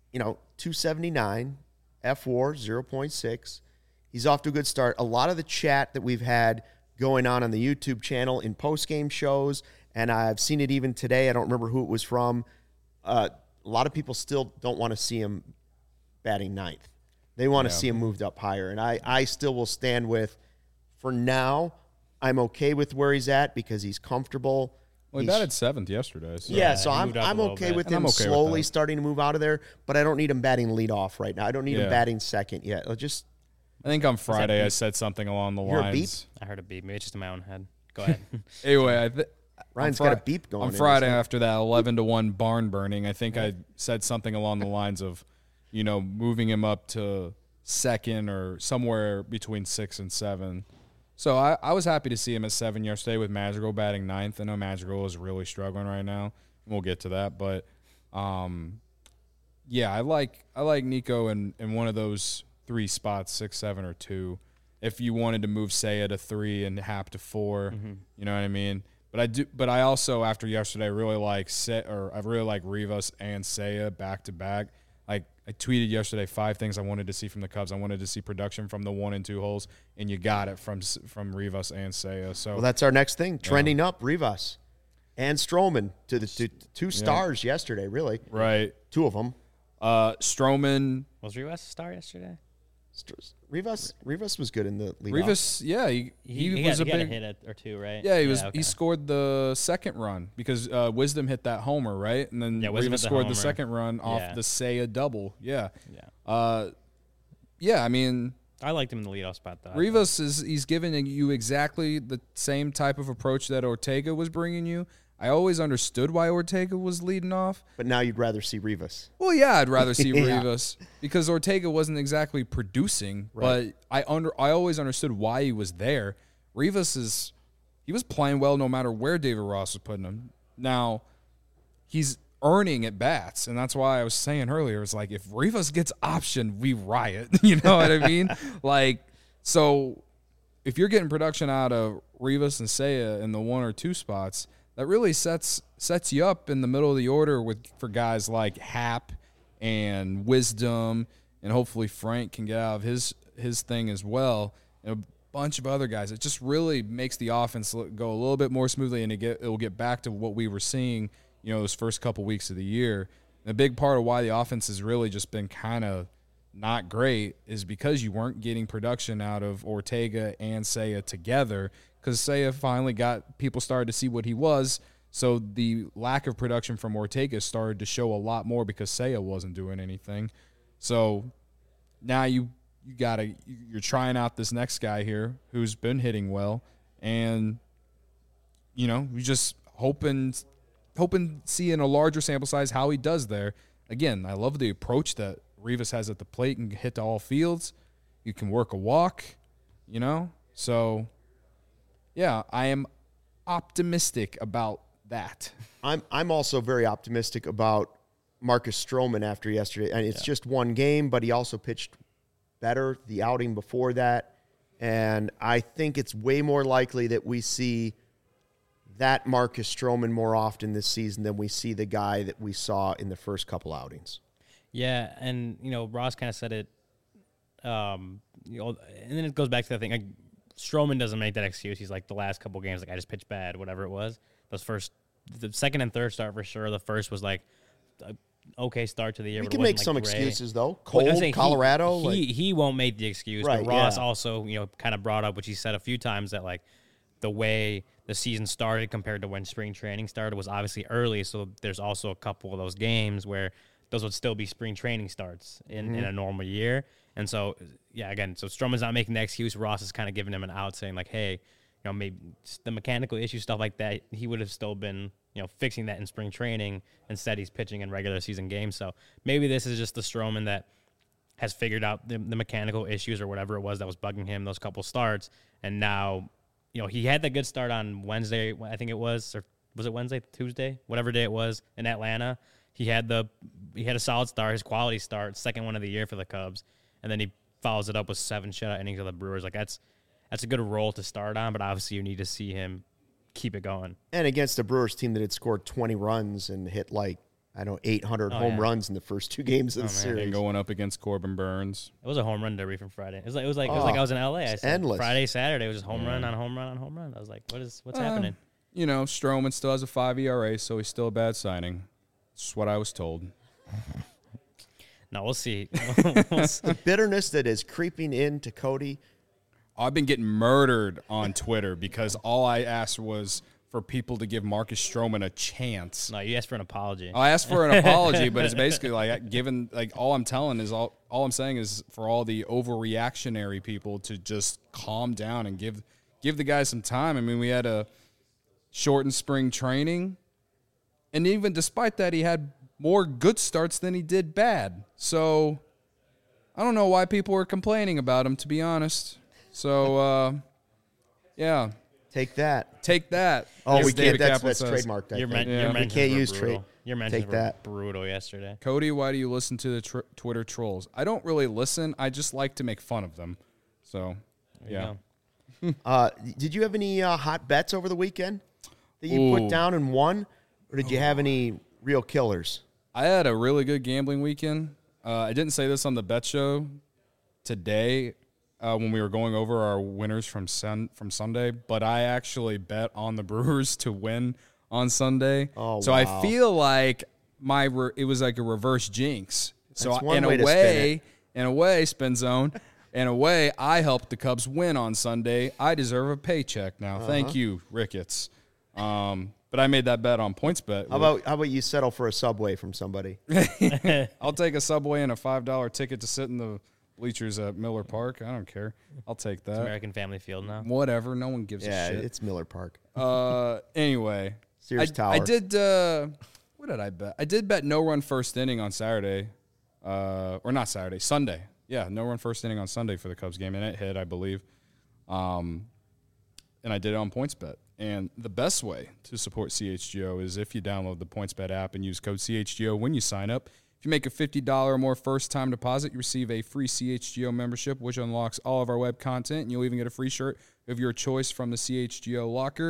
279, F4, 0.6. He's off to a good start. A lot of the chat that we've had going on the YouTube channel in post-game shows, and I've seen it even today. I don't remember who it was from. A lot of people still don't want to see him batting 9th. They want to see him moved up higher. And I still will stand with, for now, I'm okay with where he's at because he's comfortable. Well, he batted 7th yesterday. So. Yeah, so I'm okay with him slowly starting to move out of there, but I don't need him batting leadoff right now. I don't need him batting second yet. I think on Friday I said something along the lines. Hear a beep? I heard a beep. Maybe it's just in my own head. Go ahead. Anyway, Ryan's got a beep going on Friday after that 11-1 barn burning. I think I said something along the lines of, moving him up to second or somewhere between 6 and 7. So I was happy to see him at 7 yesterday with Madrigal batting 9th. I know Madrigal is really struggling right now. We'll get to that, but I like Nico in one of those 3 spots, 6, 7, or 2. If you wanted to move Seiya to 3 and Happ to 4, you know what I mean. But I also after yesterday really like Rivas and Seiya back to back. Like I tweeted yesterday 5 things I wanted to see from the Cubs. I wanted to see production from the 1 and 2 holes, and you got it from Rivas and Seiya. So that's our next thing, trending up Rivas and Stroman to the 2 stars yesterday. Really, right? 2 of them. Stroman was Rivas a star yesterday. Rivas was good in the league. Rivas, he was a big hit or 2, right? Yeah, he was. Okay. He scored the second run because Wisdom hit that homer, right? And then Rivas scored the second run off the Seiya double. Yeah. I mean, I liked him in the leadoff spot though. Rivas he's giving you exactly the same type of approach that Ortega was bringing you. I always understood why Ortega was leading off. But now you'd rather see Rivas. Well, yeah, I'd rather see Rivas because Ortega wasn't exactly producing, but I always understood why he was there. Rivas he was playing well no matter where David Ross was putting him. Now, he's earning at bats, and that's why I was saying earlier, it's like if Rivas gets optioned, we riot. You know what I mean? So if you're getting production out of Rivas and Seiya in the 1 or 2 spots, that really sets you up in the middle of the order for guys like Hap and Wisdom, and hopefully Frank can get out of his thing as well, and a bunch of other guys. It just really makes the offense go a little bit more smoothly, and it'll get back to what we were seeing, those first couple weeks of the year. And a big part of why the offense has really just been kind of not great is because you weren't getting production out of Ortega and Seiya together, because Seiya finally people started to see what he was. So the lack of production from Ortega started to show a lot more because Seiya wasn't doing anything. So now you're trying out this next guy here who's been hitting well, and we just hoping seeing a larger sample size how he does there. Again, I love the approach that Rivas has at the plate and hit to all fields. You can work a walk, So yeah, I am optimistic about that. I'm also very optimistic about Marcus Stroman after yesterday. And it's just one game, but he also pitched better the outing before that. And I think it's way more likely that we see that Marcus Stroman more often this season than we see the guy that we saw in the first couple outings. Yeah, and, Ross kind of said it, and then it goes back to the thing. Like, Stroman doesn't make that excuse. He's like, the last couple games, like, I just pitched bad, whatever it was. The second and third start for sure. The first was like an okay start to the year. We can make some great excuses though. Cold, Colorado. He won't make the excuse. Right, but Ross also, kind of brought up, which he said a few times, that like the way the season started compared to when spring training started was obviously early. So there's also a couple of those games where those would still be spring training starts in a normal year. And so, again, so Stroman's not making the excuse. Ross is kind of giving him an out, saying like, hey, maybe the mechanical issue, stuff like that, he would have still been, fixing that in spring training. Instead, he's pitching in regular season games. So maybe this is just the Stroman that has figured out the mechanical issues or whatever it was that was bugging him those couple starts. And now, he had the good start on Wednesday, I think it was, or was it Wednesday, Tuesday, whatever day it was in Atlanta. He had a solid start, his quality start, second one of the year for the Cubs. And then he follows it up with 7 shutout innings of the Brewers. Like, that's a good role to start on, but obviously you need to see him keep it going. And against a Brewers team that had scored 20 runs and hit 800 home runs in the first 2 games of the series. And going up against Corbin Burns. It was a home run derby from Friday. It was like I was in LA. I said endless. Friday, Saturday, it was just home run on home run on home run. I was like, what's happening? Stroman still has a 5 ERA, so he's still a bad signing. That's what I was told. No, we'll see. The bitterness that is creeping into Cody. I've been getting murdered on Twitter because all I asked was for people to give Marcus Stroman a chance. No, you asked for an apology. I asked for an apology, but it's basically all I'm saying is for all the overreactionary people to just calm down and give the guy some time. I mean, we had a shortened spring training, and even despite that, he had more good starts than he did bad. So I don't know why people were complaining about him, to be honest. So, yeah. Take that. Oh, we can't. That's trademarked. We can't use trade. Your mentions were brutal yesterday. Cody, why do you listen to the Twitter trolls? I don't really listen. I just like to make fun of them. So, yeah. Did you have any hot bets over the weekend that you put down and won? Or did you have any real killers? I had a really good gambling weekend. I didn't say this on the bet show today when we were going over our winners from Sunday, but I actually bet on the Brewers to win on Sunday. Oh, so wow. I feel like it was like a reverse jinx. So That's one way to spin it. Spin Zone, in a way, I helped the Cubs win on Sunday. I deserve a paycheck now. Thank you, Ricketts. But I made that bet on PointsBet. How about you settle for a Subway from somebody? I'll take a Subway and a $5 ticket to sit in the bleachers at Miller Park. I don't care. I'll take that. It's American Family Field now. Whatever. No one gives a shit. Yeah, it's Miller Park. Anyway. Sears Tower. I did, what did I bet? I did bet no run first inning on Saturday. Or not Saturday, Sunday. Yeah, no run first inning on Sunday for the Cubs game, and it hit, I believe. And I did it on PointsBet. And the best way to support CHGO is if you download the PointsBet app and use code CHGO when you sign up. If you make a $50 or more first-time deposit, you receive a free CHGO membership, which unlocks all of our web content, and you'll even get a free shirt of your choice from the CHGO locker.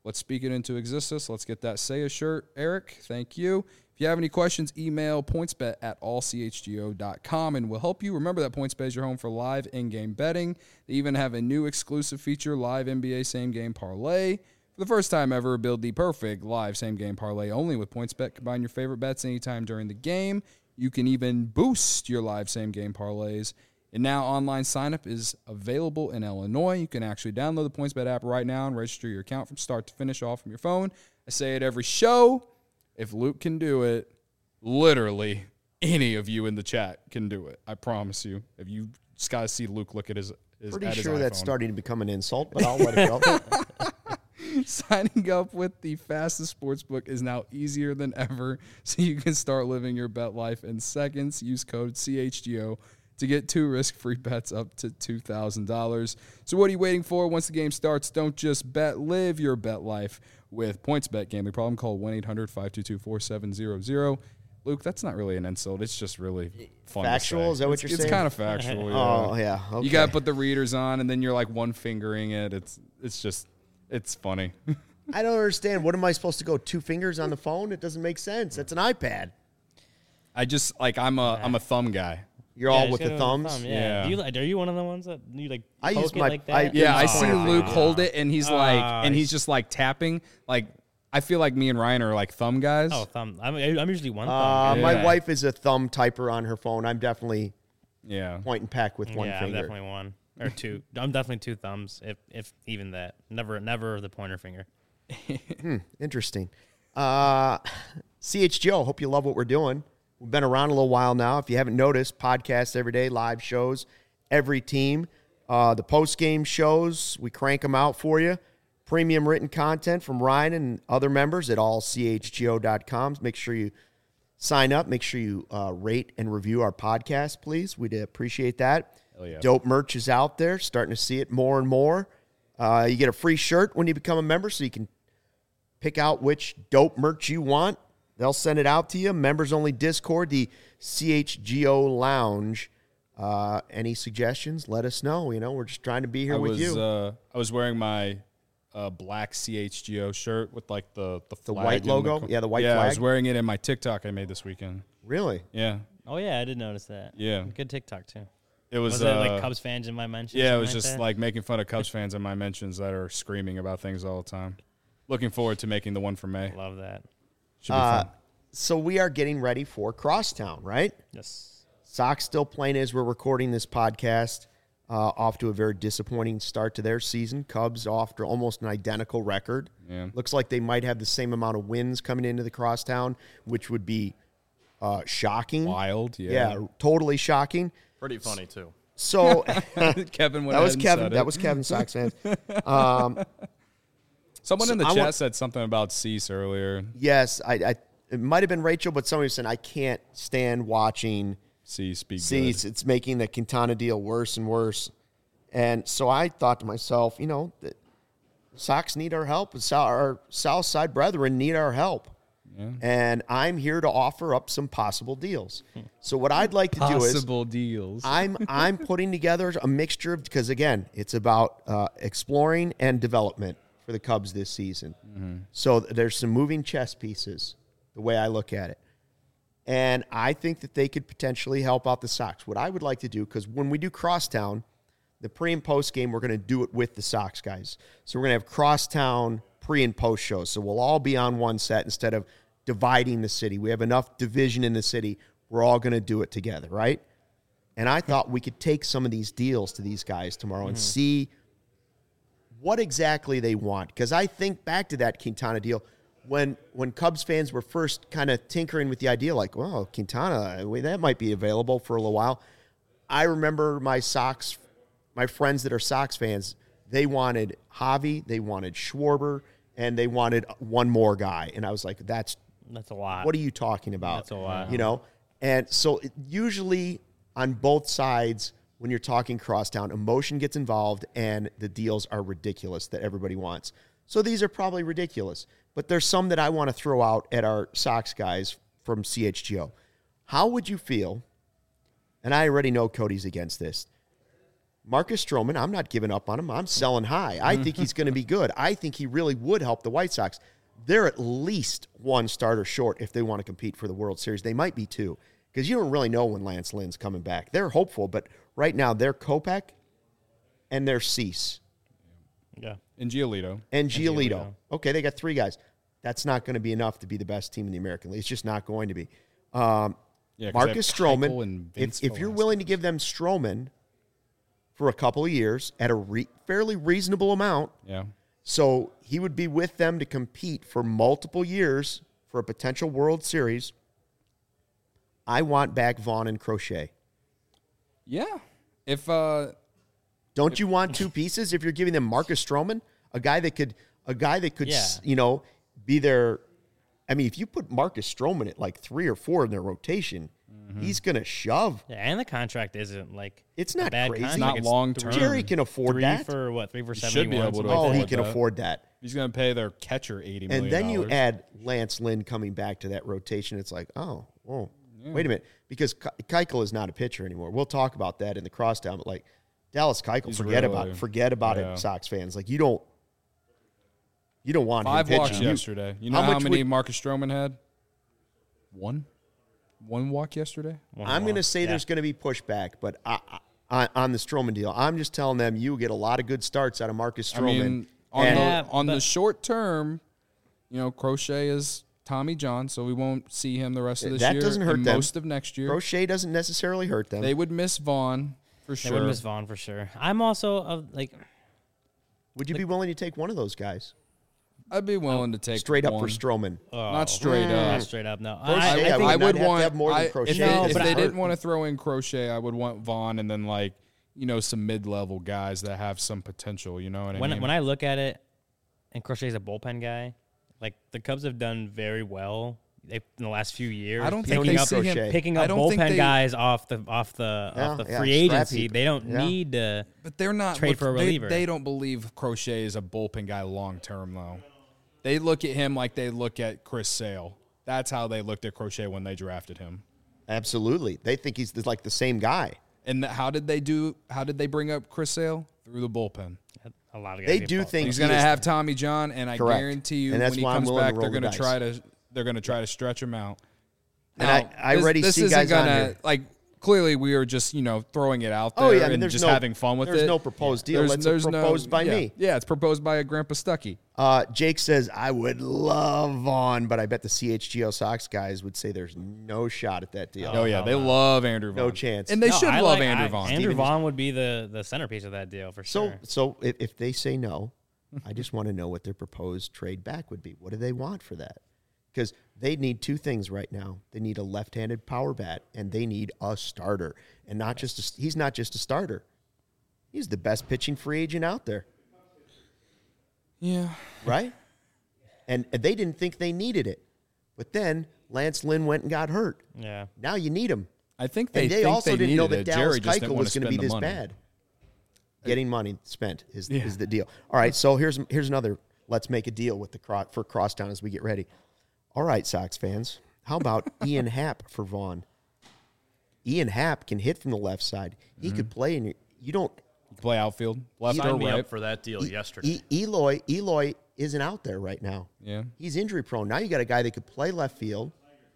Let's speak it into existence. Let's get that Say a shirt, Eric. Thank you. If you have any questions, email pointsbet@allchgo.com, and we'll help you. Remember that PointsBet is your home for live in-game betting. They even have a new exclusive feature, Live NBA Same-Game Parlay. For the first time ever, build the perfect live same-game parlay only with PointsBet. Combine your favorite bets anytime during the game. You can even boost your live same-game parlays. And now online sign-up is available in Illinois. You can actually download the PointsBet app right now and register your account from start to finish all from your phone. I say it every show. If Luke can do it, literally any of you in the chat can do it. I promise you. If you just got to see Luke look at his Pretty at his sure that's iPhone. starting to become an insult, but I'll let it go. Signing up with the fastest sportsbook is now easier than ever, so you can start living your bet life in seconds. Use code CHGO to get 2 risk-free bets up to $2,000. So what are you waiting for? Once the game starts, don't just bet. Live your bet life with PointsBet. Gambling problem? Call 1-800-522-4700. Luke, that's not really an insult. It's just really fun. Factual? Is that what you're saying? It's kind of factual, yeah. Oh, yeah. Okay. You got to put the readers on, and then you're like one-fingering it. It's funny. I don't understand. What am I supposed to go 2 fingers on the phone? It doesn't make sense. That's an iPad. I just, like, I'm a thumb guy. You're all with the thumbs? Yeah. Are you one of the ones that you like I poke use it my- like that? Yeah, I Oh, see yeah. Luke hold it, and he's he's just like tapping. Like, I feel like me and Ryan are like thumb guys. Oh, thumb. I'm usually one thumb. My Yeah. wife is a thumb typer on her phone. I'm definitely Yeah. point and peck with one I'm finger. definitely one or two. I'm definitely 2 thumbs, if even that. Never the pointer finger. Interesting. CHGO, hope you love what we're doing. We've been around a little while now. If you haven't noticed, podcasts every day, live shows, every team. The post-game shows, we crank them out for you. Premium written content from Ryan and other members at allchgo.com. Make sure you sign up. Make sure you rate and review our podcast, please. We'd appreciate that. Hell yeah. Dope merch is out there. Starting to see it more and more. You get a free shirt when you become a member, so you can pick out which dope merch you want. They'll send it out to you. Members-only Discord, the CHGO Lounge. Any suggestions, let us know. You know, we're just trying to be here with you. I was wearing my black CHGO shirt with like the flag white and logo? Yeah, the white I was flag. wearing it in my TikTok I made this weekend. Really? Yeah. Oh yeah, I did notice that. Yeah. Good TikTok too. It was it like Cubs fans in my mentions? Yeah, it something was just that? like making fun of Cubs fans in my mentions that are screaming about things all the time. Looking forward to making the one for May. Love that. Should be fun. So we are getting ready for Crosstown, right? Yes. Sox still playing as we're recording this podcast. Off to a very disappointing start to their season. Cubs off to almost an identical record. Yeah. Looks like they might have the same amount of wins coming into the Crosstown, which would be shocking. Wild, Yeah, totally shocking. Pretty funny, too. So Kevin went that was ahead and Kevin. said That it. was Kevin, Sox fans. Someone So in the I chat want- said something about Cease earlier. Yes, it might have been Rachel, but somebody was saying I can't stand watching Cease be Cease. It's making the Quintana deal worse and worse. And so I thought to myself, you know, the Sox need our help. Our South Side brethren need our help. Yeah. And I'm here to offer up some possible deals. So what I'd like to do is Possible deals. I'm putting together a mixture of, because again, it's about exploring and development for the Cubs this season. So there's some moving chess pieces, the way I look at it. And I think that they could potentially help out the Sox. What I would like to do, because when we do Crosstown, the pre and post game, we're going to do it with the Sox guys. So we're going to have Crosstown pre and post shows. So we'll all be on one set instead of dividing the city. We have enough division in the city. We're all going to do it together, right? And I thought we could take some of these deals to these guys tomorrow and see what exactly they want. Because I think back to that Quintana deal when Cubs fans were first kind of tinkering with the idea, like, well, Quintana, that might be available for a little while. I remember my friends that are Sox fans, they wanted Javi, they wanted Schwarber, and they wanted one more guy. And I was like, That's a lot. what are you talking about? That's a lot. You know? And so usually on both sides, when you're talking Crosstown, emotion gets involved and the deals are ridiculous that everybody wants. So these are probably ridiculous. But there's some that I want to throw out at our Sox guys from CHGO. How would you feel, and I already know Cody's against this, Marcus Stroman, I'm not giving up on him. I'm selling high. I think he's going to be good. I think he really would help the White Sox. They're at least one starter short if they want to compete for the World Series. They might be two because you don't really know when Lance Lynn's coming back. They're hopeful, but right now they're Kopech and they're Cease. Yeah. And Giolito. Okay, they got three guys. That's not going to be enough to be the best team in the American League. It's just not going to be. Marcus Stroman, if you're willing to give them Stroman for a couple of years at a fairly reasonable amount, so he would be with them to compete for multiple years for a potential World Series. I want back Vaughn and Crochet. Yeah. Don't you want two pieces if you're giving them Marcus Stroman, a guy that could be there? I mean, if you put Marcus Stroman at like 3 or 4 in their rotation, he's going to shove. Yeah, and the contract isn't like it's not bad crazy. Contract. Not long term. Jerry can afford that. 3 for 71. Should be able to. Oh, he can afford that. He's going to pay their catcher $80 million. And then you add Lance Lynn coming back to that rotation. It's like, wait a minute, because Keuchel is not a pitcher anymore. We'll talk about that in the crosstown, but like Dallas Keuchel, forget about it, Sox fans. Like you don't want 5 him walks pitching. yesterday. You know how many Marcus Stroman had? One walk yesterday. I'm going to say there's going to be pushback, but on the Stroman deal, I'm just telling them you get a lot of good starts out of Marcus Stroman. On the short term, Crochet is Tommy John, so we won't see him the rest of this year. That doesn't hurt them. Most of next year. Crochet doesn't necessarily hurt them. They would miss Vaughn for sure. They would miss Vaughn for sure. I'm also would you be willing to take one of those guys? I'd be willing to take straight up one. for Stroman. Not straight up. Not straight up. No, Crochet, I would want have more than Crochet. If they didn't want to throw in Crochet, I would want Vaughn and then some mid-level guys that have some potential. You know what I mean? When I look at it, and Crochet's a bullpen guy, like the Cubs have done very well in the last few years. I don't think they see him picking up bullpen guys off the free agency. They don't need to. But they're not trade for a reliever. They don't believe Crochet is a bullpen guy long term though. They look at him like they look at Chris Sale. That's how they looked at Crochet when they drafted him. Absolutely, they think he's like the same guy. And how did they bring up Chris Sale? Through the bullpen. A lot of guys they do think he's going to have Tommy John, and I guarantee you, when he comes back, they're going to try to stretch him out. Now, and I already see guys on here. Clearly, we are just throwing it out there and just having fun with it. There's no proposed deal. It's proposed by me. Yeah, it's proposed by a Grandpa Stuckey. Jake says, I would love Vaughn, but I bet the CHGO Sox guys would say there's no shot at that deal. They love Andrew Vaughn. No chance. And they should love Andrew Vaughn. Andrew Vaughn would be the centerpiece of that deal for sure. So if they say no, I just want to know what their proposed trade back would be. What do they want for that? Because they need two things right now. They need a left-handed power bat, and they need a starter. And he's not just a starter. He's the best pitching free agent out there. Yeah. Right? And they didn't think they needed it. But then Lance Lynn went and got hurt. Yeah. Now you need him. I think they also didn't know that Jerry Dallas Keuchel was going to be this bad. Getting money spent is the deal. All right, so here's another. Let's make a deal with for Crosstown as we get ready. All right, Sox fans. How about Ian Happ for Vaughn? Ian Happ can hit from the left side. He could play in you don't play outfield, left or right. Me right. up for that deal yesterday. Eloy isn't out there right now. Yeah, he's injury prone. Now you got a guy that could play left field.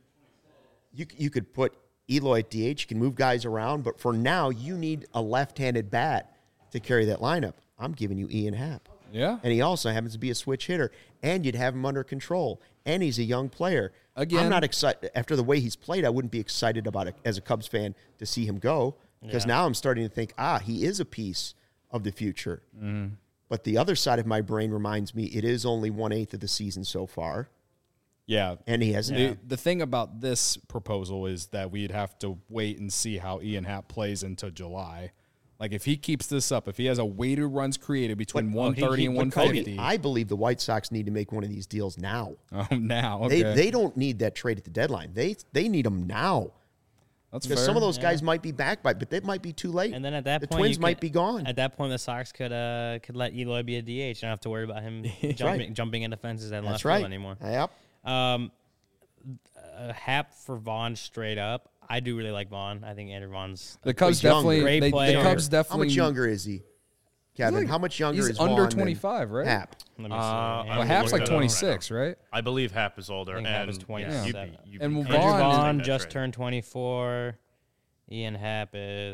You could put Eloy at DH. You can move guys around, but for now you need a left-handed bat to carry that lineup. I'm giving you Ian Happ. Yeah, and he also happens to be a switch hitter, and you'd have him under control. And he's a young player. Again, I'm not excited. After the way he's played, I wouldn't be excited about it as a Cubs fan to see him go because now I'm starting to think, he is a piece of the future. Mm. But the other side of my brain reminds me it is only 1/8 of the season so far. Yeah. And he hasn't. The thing about this proposal is that we'd have to wait and see how Ian Happ plays into July. Like, if he keeps this up, if he has a weighted runs created between 130 and 150. I believe the White Sox need to make one of these deals now. Oh, now. Okay. They don't need that trade at the deadline. They need them now. That's because fair. Some of those guys might be back by, but they might be too late. And then at that point, the Twins might be gone. At that point, the Sox could let Eloy be a DH. Don't have to worry about him jumping into fences and left field anymore. Yep. Happ for Vaughn straight up. I do really like Vaughn. I think Andrew Vaughn's The Cubs younger. definitely. Great The player. Cubs How definitely. much younger is he, Kevin? He's How much younger He's is under Vaughn than 25, right? Hap? Let me see. I Well, will Hap's look like that up 26, right? I believe Hap is older. I think and Hap is 27. And Andrew Vaughn- Vaughn just turned 24. Ian Happ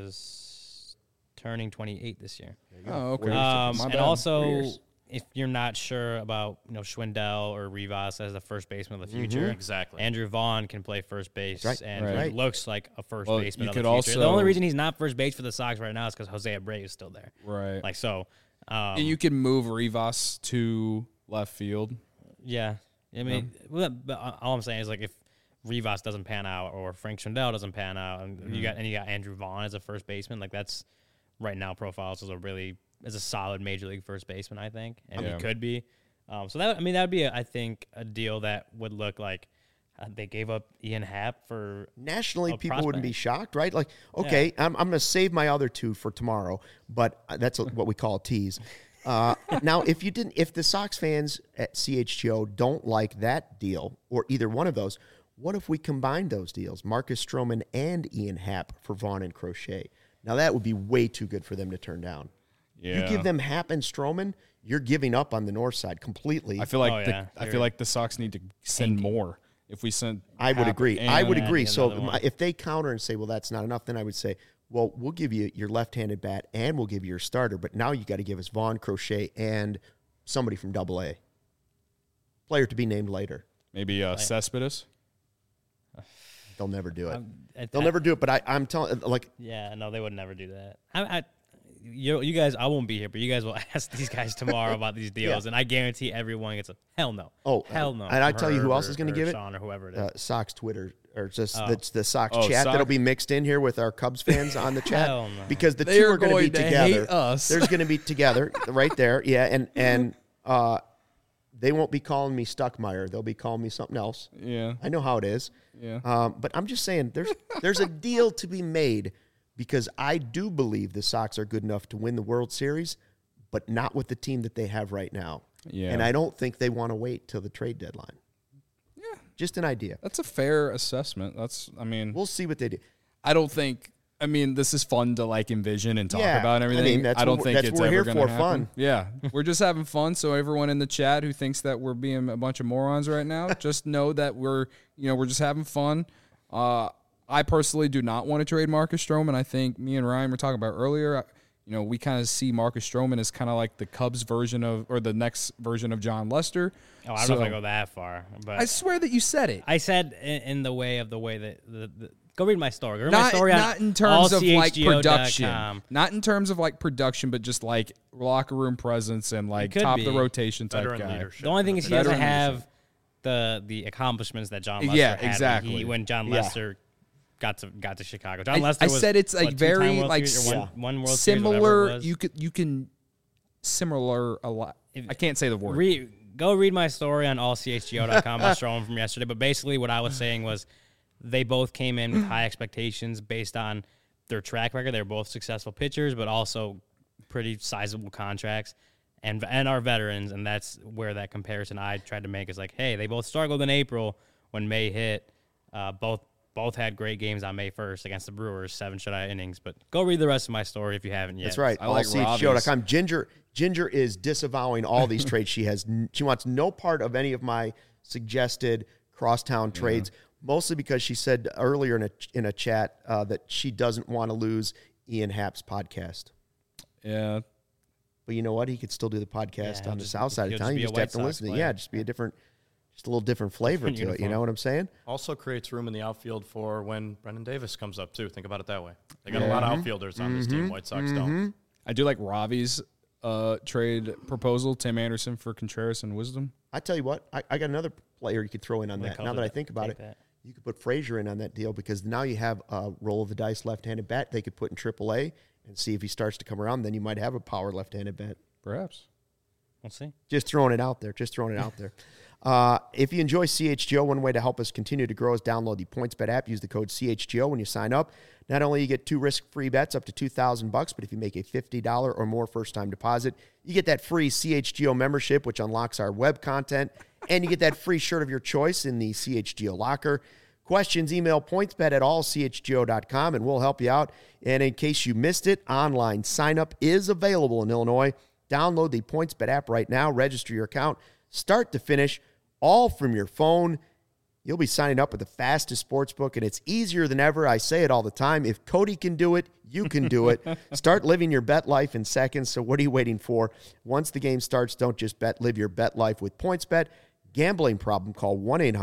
is turning 28 this year. Oh, okay. And My bad. also, 4 years. if you're not sure about Schwindel or Rivas as the first baseman of the future, Exactly. Andrew Vaughn can play first base, Right. and Right. he looks like a first Well, baseman you of the could future. The also- only reason he's not first base for the Sox right now is because Jose Abreu is still there. Right. Like so, And you can move Rivas to left field. yeah. I mean, but all I'm saying is like if Rivas doesn't pan out or Frank Schwindel doesn't pan out, and you got Andrew Vaughn as a first baseman, like that's right now profiles as a solid major league first baseman, I think, and Yeah. he could be. So that would be I think a deal that would look like they gave up Ian Happ for Nationally, a people wouldn't be prospect. shocked, right? Like, okay, I'm going to save my other two for tomorrow, but that's what we call a tease. Now, if the Sox fans at CHGO don't like that deal or either one of those, what if we combined those deals, Marcus Stroman and Ian Happ for Vaughn and Crochet? Now, that would be way too good for them to turn down. Yeah. You give them Happ and Stroman, you're giving up on the north side completely. I feel like Oh, yeah. I feel like the Sox need to send more. If we send, I would Happ agree. and- I would agree. another So one. if they counter and say, well, that's not enough, then I would say, well, we'll give you your left-handed bat and we'll give you your starter, but now you got to give us Vaughn, Crochet, and somebody from AA. Player to be named later. maybe Cespedes. They'll never do it. I- They'll never do it, but I'm telling, like, Yeah, no, they would never do that. You guys, I won't be here, but you guys will ask these guys tomorrow about these deals, Yeah. and I guarantee everyone gets a hell no. Oh, hell no. and I from tell you who Herb else is gonna or give it? Sean or whoever it is. Sox Twitter or just Oh. the Sox Oh, chat Sox- that'll be mixed in here with our Cubs fans on the chat Hell no. because the They two are are going to be going to together. hate us. There's going to be together right there, yeah, and they won't be calling me Stuckmeyer. They'll be calling me something else. Yeah. I know how it is. Yeah. But I'm just saying there's a deal to be made because I do believe the Sox are good enough to win the World Series, but not with the team that they have right now. Yeah. And I don't think they want to wait till the trade deadline. Yeah. Just an idea. That's a fair assessment. We'll see what they do. I don't think. I mean, this is fun to like envision and talk Yeah, about and I everything. mean, that's don't what think that's it's what we're ever here going to for, happen. fun. Yeah, we're just having fun. So everyone in the chat who thinks that we're being a bunch of morons right now, just know that we're just having fun. I personally do not want to trade Marcus Stroman. I think me and Ryan were talking about earlier. We kind of see Marcus Stroman as kind of like the Cubs version of, or the next version of John Lester. Oh, I don't know if I go that far, but I swear that you said it. I said in the way that the go read my story. Go read my Not, story not in terms of like production, allchgo.com. not in terms of like production, but just like locker room presence and like could top of be. the rotation type Veteran guy. leadership. The only thing is he Veteran doesn't have the accomplishments that John Lester Yeah, had exactly. when John Yeah. Lester got to Chicago. John Lester I was, said it's like what, very two-time World like Series or one World Series, whatever it similar. was. You can similar a lot. I can't say the word. Go read my story on allchgo.com about Stroman from yesterday. But basically, what I was saying was they both came in with high expectations based on their track record. They're both successful pitchers, but also pretty sizable contracts and are veterans. And that's where that comparison I tried to make is like, hey, they both struggled in April when May hit. Both had great games on May 1st against the Brewers, 7 shutout innings. But go read the rest of my story if you haven't yet. That's right. I like allchgo.com. Ginger is disavowing all these trades. She wants no part of any of my suggested crosstown trades, mostly because she said earlier in a chat that she doesn't want to lose Ian Happ's podcast. Yeah, But you know what? He could still do the podcast Yeah, on the south side of he'll town. just You be a just White have to Sox listen to it. player. Yeah, just be just a little different flavor to Different it. You know uniform. what I'm saying? Also creates room in the outfield for when Brendan Davis comes up, too. Think about it that way. They got a lot of outfielders on this team. White Sox don't. I do like Ravi's trade proposal. Tim Anderson for Contreras and Wisdom. I tell you what, I got another player you could throw in on that. Now that I think about it, you could put Frazier in on that deal because now you have a roll of the dice left-handed bat they could put in AAA and see if he starts to come around. Then you might have a power left-handed bat. Perhaps. We'll see. Just throwing it out there. If you enjoy CHGO, one way to help us continue to grow is download the PointsBet app. Use the code CHGO when you sign up. Not only you get 2 risk-free bets up to $2,000, but if you make a $50 or more first-time deposit, you get that free CHGO membership, which unlocks our web content, and you get that free shirt of your choice in the CHGO locker. Questions, email pointsbet@allchgo.com, and we'll help you out. And in case you missed it, online sign-up is available in Illinois. Download the PointsBet app right now. Register your account, start to finish, all from your phone. You'll be signing up with the fastest sportsbook, and it's easier than ever. I say it all the time. If Cody can do it, you can do it. Start living your bet life in seconds. So what are you waiting for? Once the game starts, don't just bet. Live your bet life with PointsBet. Gambling problem, call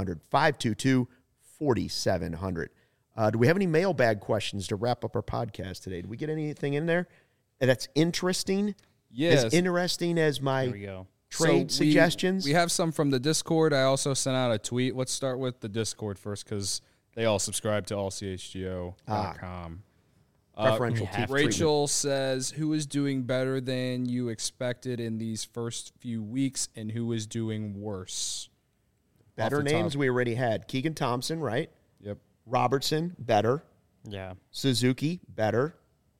1-800-522-4700. Do we have any mailbag questions to wrap up our podcast today? Did we get anything in there that's interesting? Yes. As interesting as my There we go. trade suggestions? We have some from the Discord. I also sent out a tweet. Let's start with the Discord first because they all subscribe to allchgo.com. Preferential Rachel says, who is doing better than you expected in these first few weeks and who is doing worse? Better names we already had. Keegan Thompson, right? Yep. Robertson, better. Yeah. Suzuki, better.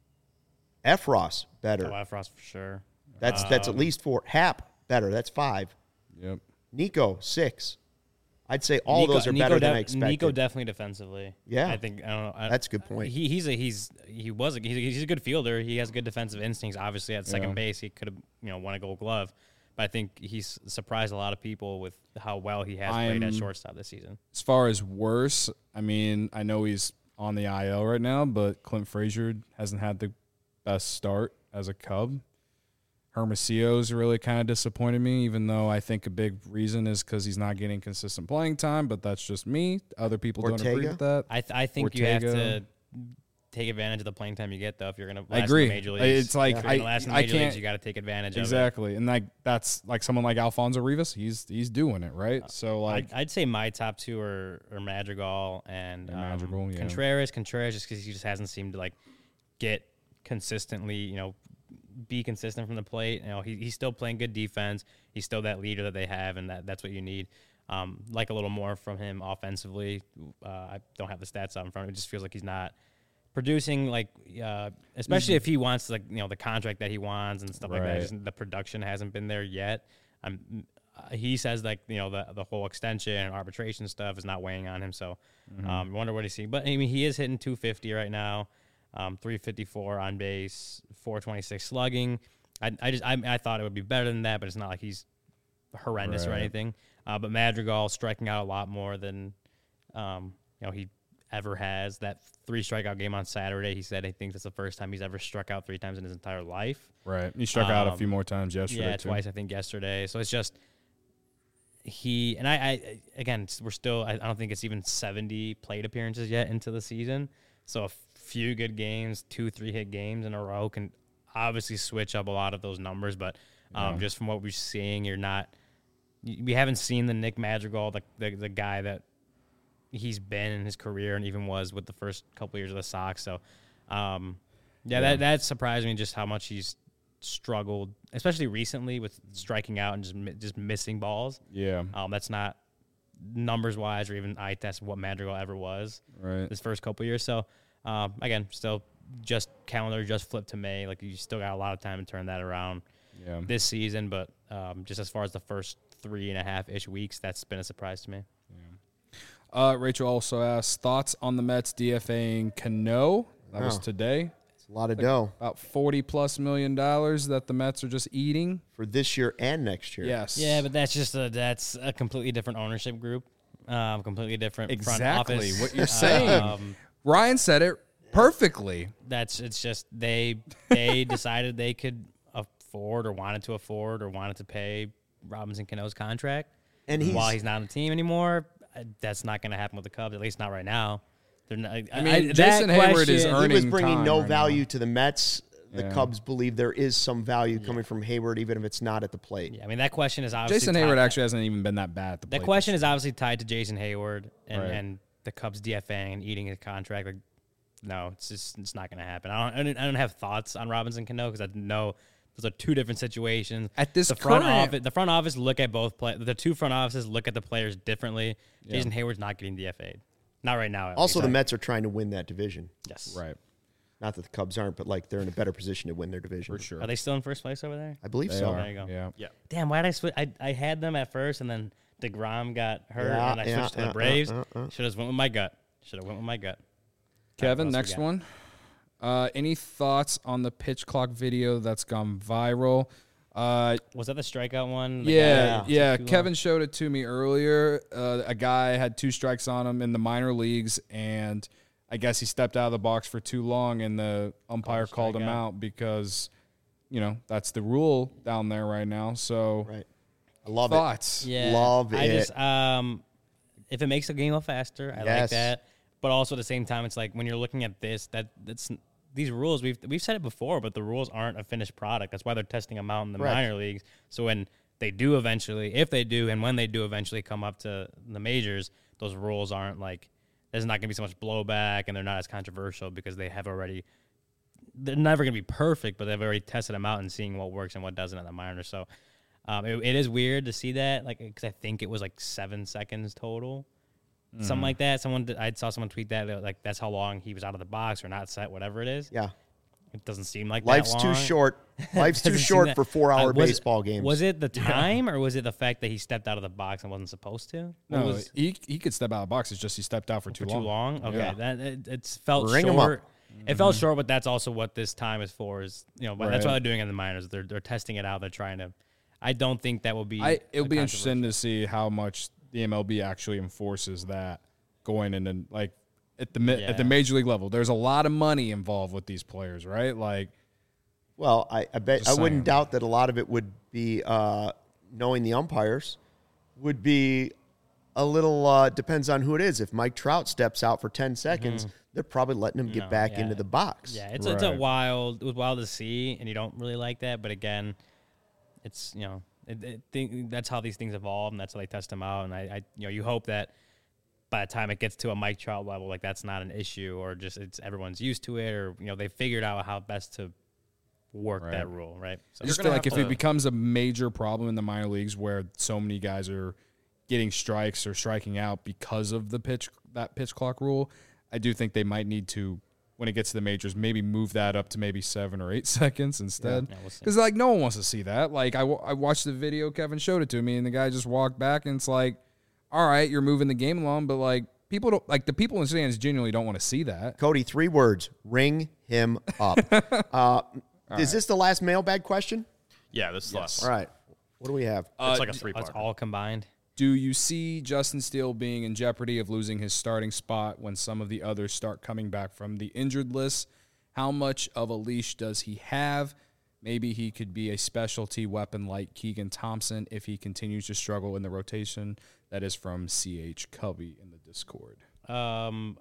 Efros, better. Oh, Efros for sure. That's at least 4. Hap, better. That's 5. Yep. Nico, 6. I'd say all those are better than I expected. Nico definitely defensively. Yeah. I think, I don't know. That's a good point. He's a good fielder. He has good defensive instincts. Obviously at second base, he could have, won a Gold Glove. But I think he's surprised a lot of people with how well he has played at shortstop this season. As far as worse, I mean, I know he's on the IL right now, but Clint Frazier hasn't had the best start as a Cub. Hermosillo's really kind of disappointed me, even though I think a big reason is because he's not getting consistent playing time, but that's just me. Other people don't agree with that. I think you have to take advantage of the playing time you get, though, if you're going to last agree. in the major leagues. It's like, I can't. Leagues, you got to take advantage of it. Exactly. And that's like someone like Alfonso Rivas, he's doing it, right? So like I'd say my top two are Madrigal and Contreras. Contreras just because he just hasn't seemed to like get consistently, be consistent from the plate. He's still playing good defense. He's still that leader that they have, and that's what you need. Like a little more from him offensively. I don't have the stats out in front of me. It just feels like he's not producing, especially if he wants the contract that he wants and stuff like that. Just the production hasn't been there yet. He says the whole extension and arbitration stuff is not weighing on him. So I wonder what he's seeing. But I mean, he is hitting 250 right now. 354 on base, 426 slugging. I thought it would be better than that, but it's not like he's horrendous or anything. But Madrigal striking out a lot more than he ever has. That 3 strikeout game on Saturday, he said he thinks that's the first time he's ever struck out 3 times in his entire life. Right. He struck out a few more times yesterday. Yeah, twice I think yesterday. So it's just I we're still I don't think it's even 70 plate appearances yet into the season. So a few good games, 2-3 hit games in a row can obviously switch up a lot of those numbers. But just from what we're seeing, we haven't seen the Nick Madrigal, the guy that he's been in his career and even was with the first couple years of the Sox. So, that surprised me just how much he's struggled, especially recently with striking out and just missing balls. Yeah. That's not numbers-wise or even eye test what Madrigal ever was this first couple years. So, again, still just calendar just flipped to May. Like, you still got a lot of time to turn that around this season. But just as far as the first 3.5-ish weeks, that's been a surprise to me. Yeah. Rachel also asked, thoughts on the Mets DFAing Cano? That was today. It's a lot of dough. About $40+ million that the Mets are just eating. For this year and next year. Yes. Yeah, but that's a completely different ownership group. Completely different front office. Exactly what you're saying. Ryan said it perfectly. It's just they decided they could afford or wanted to pay Robinson Cano's contract. And while he's not on the team anymore, that's not going to happen with the Cubs, at least not right now. Jason Hayward is earning he was bringing no right value now to the Mets. The Cubs believe there is some value coming from Hayward, even if it's not at the plate. Yeah, I mean, that question is obviously Jason Hayward actually hasn't even been that bad at the plate. That question is obviously tied to Jason Hayward and the Cubs DFAing and eating his contract. Like, no, it's not going to happen. I don't have thoughts on Robinson Cano because I know those are 2 different situations. At this the front office look at both the 2 front offices look at the players differently. Yeah. Jason Hayward's not getting DFA'd. Not right now. Also, the Mets are trying to win that division. Yes. Right. Not that the Cubs aren't, but they're in a better position to win their division. For sure. Are they still in first place over there? I believe They so. are. There you go. Yeah. Damn, why did I switch? I had them at first, and then DeGrom got hurt and I switched to the Braves. Should have went with my gut. Kevin, next one. Any thoughts on the pitch clock video that's gone viral? Was that the strikeout one? Yeah. Kevin showed it to me earlier. A guy had 2 strikes on him in the minor leagues, and I guess he stepped out of the box for too long, and the umpire called him out because, that's the rule down there right now. So, right. I love thoughts. it. Yeah, love I it. just if it makes the game a little faster, I like that. But also at the same time, it's like when you're looking at this, that's these rules. We've said it before, but the rules aren't a finished product. That's why they're testing them out in the minor leagues. So when they do eventually, if they do, and when they do eventually come up to the majors, those rules aren't like there's not going to be so much blowback, and they're not as controversial because they have already. They're never going to be perfect, but they've already tested them out and seeing what works and what doesn't in the minors. So. It is weird to see that, like, because I think it was like 7 seconds total, something like that. I saw someone tweet that, like, that's how long he was out of the box or not set, whatever it is. Yeah, it doesn't seem like life's that long. too short. Life's too short for 4-hour baseball games. Was it the time, or was it the fact that he stepped out of the box and wasn't supposed to? No, he could step out of the box. It's just he stepped out for too long. Okay, yeah. It felt Ring short. him up. It felt short, but that's also what this time is for. Is but that's why they're doing it in the minors. They're testing it out. They're trying to. I don't think that will be. It'll be interesting to see how much the MLB actually enforces that going in, and like at the major league level. There's a lot of money involved with these players, right? Like, well, I bet I wouldn't doubt that a lot of it would be knowing the umpires would be a little depends on who it is. If Mike Trout steps out for 10 seconds, they're probably letting him get back into the box. Yeah, it was wild to see, and you don't really like that, but again. It's that's how these things evolve, and that's how they test them out. And I you hope that by the time it gets to a Mike Trout level, like that's not an issue, or just it's everyone's used to it, or they figured out how best to work that rule, right? So I just feel like if it becomes a major problem in the minor leagues where so many guys are getting strikes or striking out because of the pitch clock rule, I do think they might need to. When it gets to the majors, maybe move that up to maybe 7 or 8 seconds instead. Because, like, no one wants to see that. Like, I watched the video, Kevin showed it to me, and the guy just walked back, and it's like, all right, you're moving the game along, but, like, people don't, like, the people in stands genuinely don't want to see that. Cody, 3 words, ring him up. Is this the last mailbag question? Yeah, this is the last All one. right. What do we have? It's like a 3-part. It's all combined. Do you see Justin Steele being in jeopardy of losing his starting spot when some of the others start coming back from the injured list? How much of a leash does he have? Maybe he could be a specialty weapon like Keegan Thompson if he continues to struggle in the rotation. That is from C.H. Cubby in the Discord. To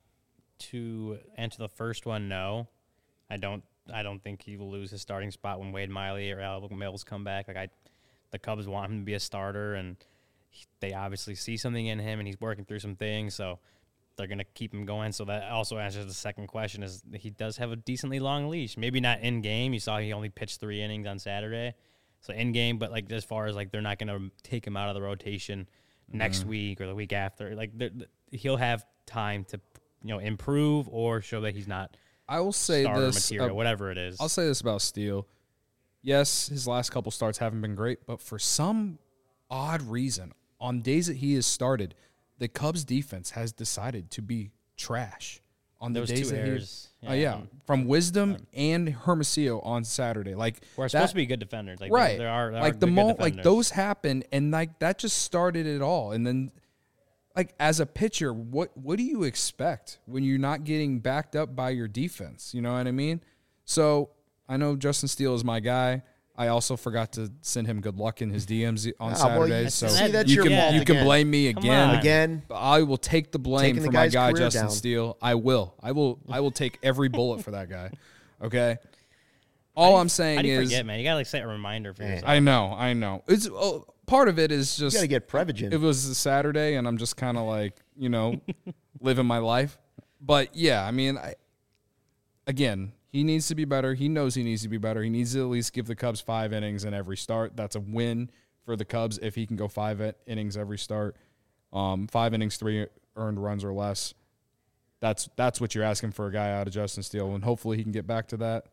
answer the first one, no. I don't think he will lose his starting spot when Wade Miley or Alec Mills come back. The Cubs want him to be a starter, and they obviously see something in him, and he's working through some things, so they're going to keep him going. So that also answers the second question, is he does have a decently long leash. Maybe not in-game. You saw he only pitched 3 innings on Saturday. So in-game, but like as far as like they're not going to take him out of the rotation next week or the week after. Like he'll have time to improve or show that he's not I will say starter this, material, whatever it is. I'll say this about Steele. Yes, his last couple starts haven't been great, but for some odd reason, on days that he has started, the Cubs defense has decided to be trash. On the Those days 2 that errors. from Wisdom and Hermosillo on Saturday. Like we're supposed to be good defenders. Like, right. There are like good defenders. like those happen, and like that just started it all. And then like as a pitcher, what do you expect when you're not getting backed up by your defense? You know what I mean? So I know Justin Steele is my guy. I also forgot to send him good luck in his DMs on Saturday. Well, so that's you your fault can again. blame me again. Again. I will take the blame for my guy Justin down. Steele. I will take every bullet for that guy. Okay. All I'm saying How do you is, forget, man? You gotta like set a reminder for yourself. I know. It's part of it is just You got to get Prevagen. it was a Saturday, and I'm just kind of like living my life. But yeah, I mean, again, he needs to be better. He knows he needs to be better. He needs to at least give the Cubs 5 innings in every start. That's a win for the Cubs if he can go 5 innings every start. 5 innings, 3 earned runs or less. That's what you're asking for a guy out of Justin Steele, and hopefully he can get back to that.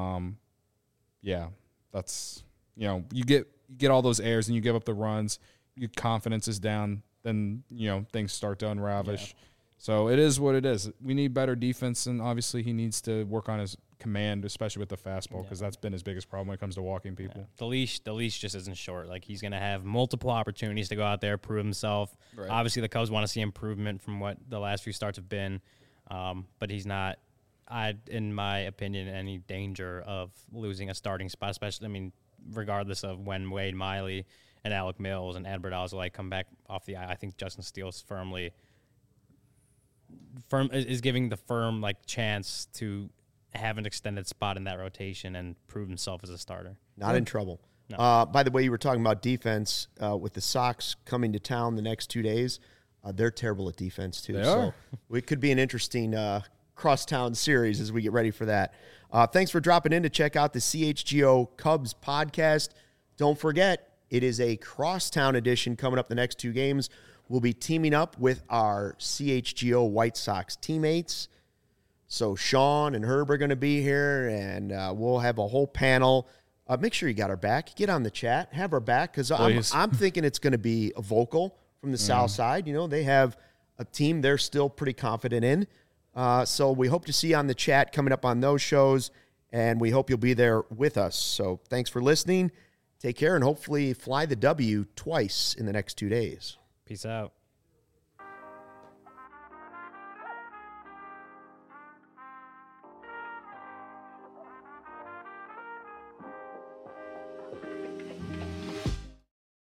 Yeah, that's you get all those errors and you give up the runs. your confidence is down, then, things start to unravel. So it is what it is. We need better defense, and obviously he needs to work on his command, especially with the fastball, because that's been his biggest problem when it comes to walking people. Yeah. The leash just isn't short. Like, he's going to have multiple opportunities to go out there, prove himself. Right. Obviously, the Cubs want to see improvement from what the last few starts have been, but he's not, in my opinion, any danger of losing a starting spot, especially, regardless of when Wade Miley and Alec Mills and Adbert Alzolay come back off the eye. I think Justin Steele's is giving the firm chance to have an extended spot in that rotation and prove himself as a starter. Not in trouble. No. By the way, you were talking about defense with the Sox coming to town the next 2 days. They're terrible at defense too. So it could be an interesting crosstown series as we get ready for that. Thanks for dropping in to check out the CHGO Cubs podcast. Don't forget, it is a crosstown edition coming up the next 2 games. We'll be teaming up with our CHGO White Sox teammates. So Sean and Herb are going to be here, and we'll have a whole panel. Make sure you got our back. Get on the chat. Have our back, because I'm thinking it's going to be a vocal from the South Side. They have a team they're still pretty confident in. So we hope to see you on the chat coming up on those shows, and we hope you'll be there with us. So thanks for listening. Take care, and hopefully fly the W twice in the next 2 days. Peace out.